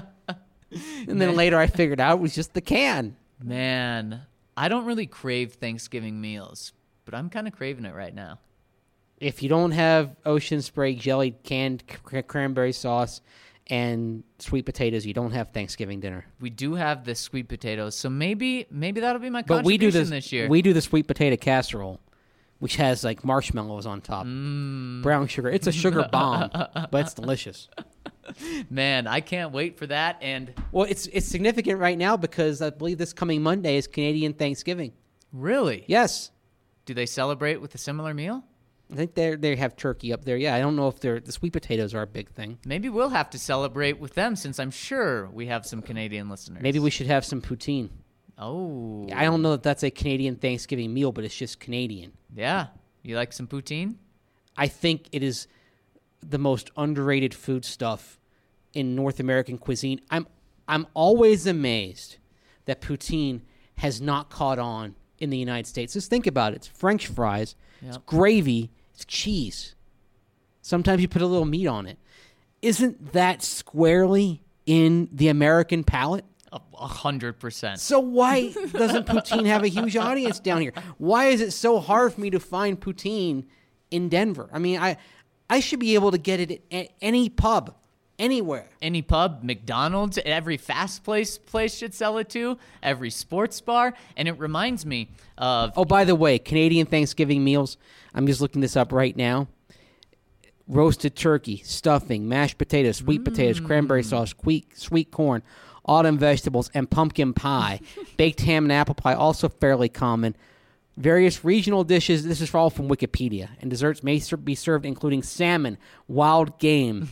And then later I figured out it was just the can. Man, I don't really crave Thanksgiving meals, but I'm kind of craving it right now. If you don't have Ocean Spray jellied canned cranberry sauce and sweet potatoes, you don't have Thanksgiving dinner. We do have the sweet potatoes, so maybe that'll be my But we do contribution this year. We do the sweet potato casserole, which has like marshmallows on top, brown sugar. It's a sugar bomb, but it's delicious. Man, I can't wait for that. And Well, it's significant right now because I believe this coming Monday is Canadian Thanksgiving. really, Yes, do they celebrate with a similar meal? I think they have turkey up there. Yeah, I don't know if the sweet potatoes are a big thing. Maybe we'll have to celebrate with them, since I'm sure we have some Canadian listeners. Maybe we should have some poutine. Oh, I don't know that that's a Canadian Thanksgiving meal, but it's just Canadian. yeah. You like some poutine? I think it is the most underrated food stuff in North American cuisine. I'm always amazed that poutine has not caught on in the United States. Just think about it. It's French fries, it's Yep. gravy, it's cheese. Sometimes you put a little meat on it. Isn't that squarely in the American palate? 100%. So why doesn't poutine have a huge audience down here? Why is it so hard for me to find poutine in Denver? I mean, I should be able to get it at any pub, anywhere. Any pub, McDonald's, every fast place should sell it too. Every sports bar, and it reminds me of Oh, by the way, Canadian Thanksgiving meals, I'm just looking this up right now. Roasted turkey, stuffing, mashed potatoes, sweet potatoes, cranberry sauce, sweet corn, autumn vegetables, and pumpkin pie. Baked ham and apple pie, also fairly common. Various regional dishes, this is all from Wikipedia, and desserts may be served including salmon, wild game,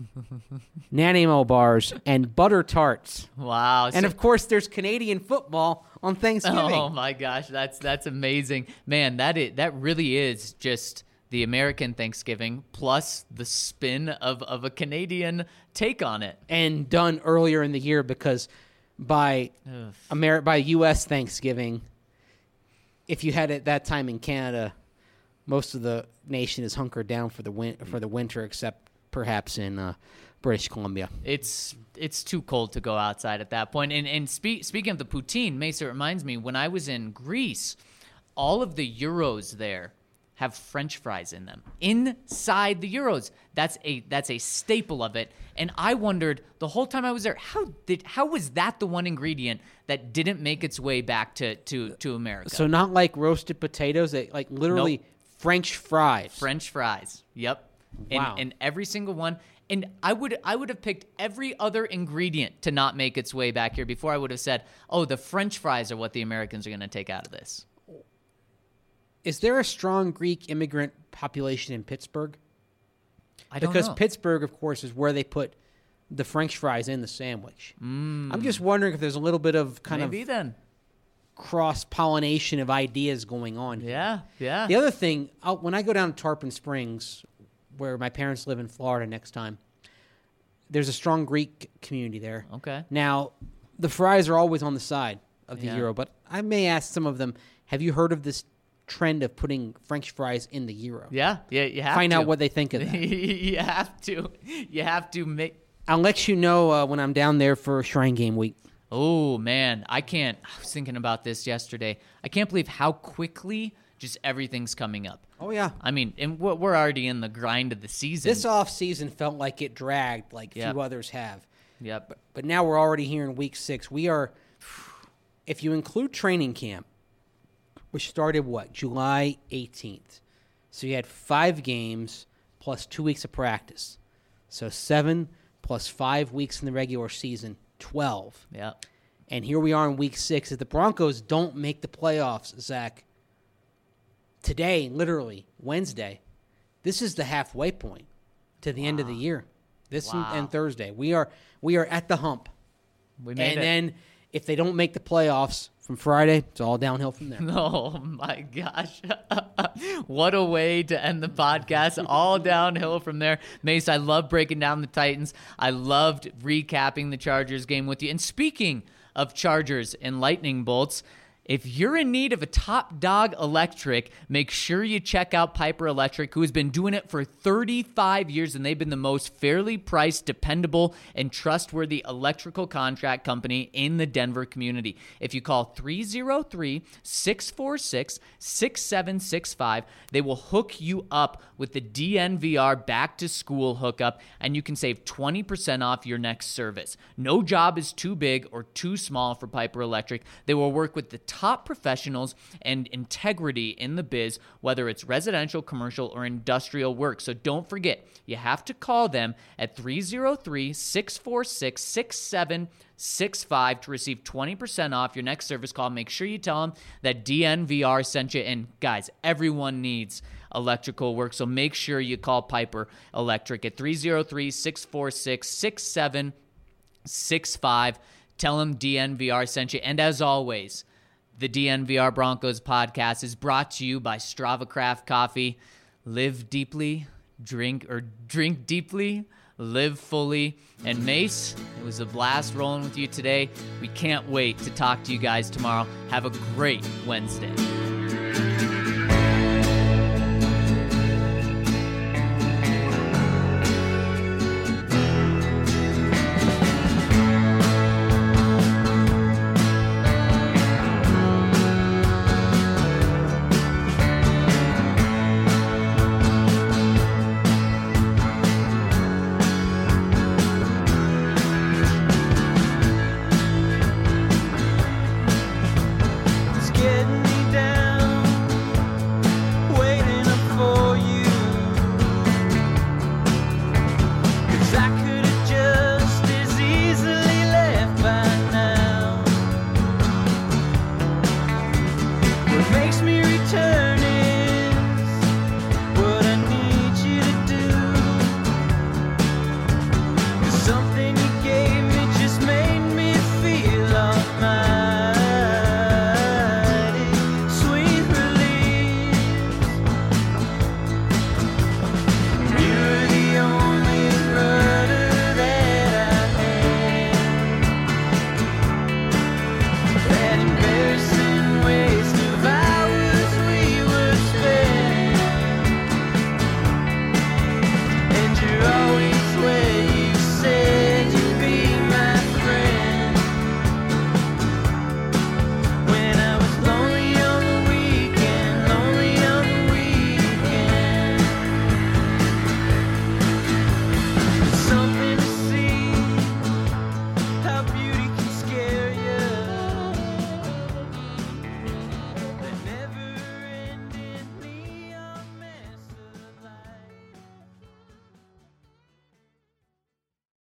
Nanaimo bars, and butter tarts. wow. And of course, there's Canadian football on Thanksgiving. oh my gosh, that's amazing, man. That really is just the American Thanksgiving plus the spin of a Canadian take on it. And done earlier in the year because by by U.S. Thanksgiving, if you had it that time in Canada, most of the nation is hunkered down for the winter, except perhaps in British Columbia. It's too cold to go outside at that point. And speaking of the poutine, Mesa, reminds me, when I was in Greece, all of the gyros there have French fries in them inside the gyros. That's a staple of it. And I wondered the whole time I was there, how was that the one ingredient that didn't make its way back to America? So not like roasted potatoes, like literally Nope. French fries. French fries. Yep. Wow. And every single one. And I would have picked every other ingredient to not make its way back here before I would have said, oh, the French fries are what the Americans are going to take out of this. Is there a strong Greek immigrant population in Pittsburgh? I don't Because know. Pittsburgh, of course, is where they put the French fries in the sandwich. I'm just wondering if there's a little bit of kind Maybe of then. cross-pollination of ideas going on here. Yeah, yeah. The other thing, when I go down to Tarpon Springs, where my parents live in Florida next time, there's a strong Greek community there. Okay. Now, the fries are always on the side of the Yeah. gyro, but I may ask some of them, have you heard of this trend of putting French fries in the gyro? Yeah, you have Find to. out what they think of that. You have to make. I'll let you know when I'm down there for Shrine Game Week. Oh man, I was thinking about this yesterday. I can't believe how quickly just everything's coming up. Oh, yeah. I mean, and we're already in the grind of the season. This off-season felt like it dragged like Yep. few others have. Yep. But now we're already here in week 6. We are, if you include training camp, which started, July 18th. So you had 5 games plus 2 weeks of practice. So 7 plus 5 weeks in the regular season, 12. Yep. And here we are in week 6. If the Broncos don't make the playoffs, Zach, today, literally, Wednesday, this is the halfway point to the end of the year. This and Thursday. We are at the hump. We made it. Then if they don't make the playoffs from Friday, it's all downhill from there. Oh my gosh. What a way to end the podcast. All downhill from there. Mace, I love breaking down the Titans. I loved recapping the Chargers game with you. And speaking of Chargers and lightning bolts, if you're in need of a top dog electric, make sure you check out Piper Electric, who has been doing it for 35 years, and they've been the most fairly priced, dependable, and trustworthy electrical contract company in the Denver community. If you call 303-646-6765, they will hook you up with the DNVR back-to-school hookup, and you can save 20% off your next service. No job is too big or too small for Piper Electric. They will work with the top professionals and integrity in the biz, whether it's residential, commercial, or industrial work. So don't forget, you have to call them at 303-646-6765 to receive 20% off your next service call. Make sure you tell them that DNVR sent you. And guys, everyone needs electrical work, so make sure you call Piper Electric at 303-646-6765. Tell them DNVR sent you. And as always, the DNVR Broncos podcast is brought to you by Strava Craft Coffee. Live deeply, drink deeply, live fully. And Mace, it was a blast rolling with you today. We can't wait to talk to you guys tomorrow. Have a great Wednesday. It's getting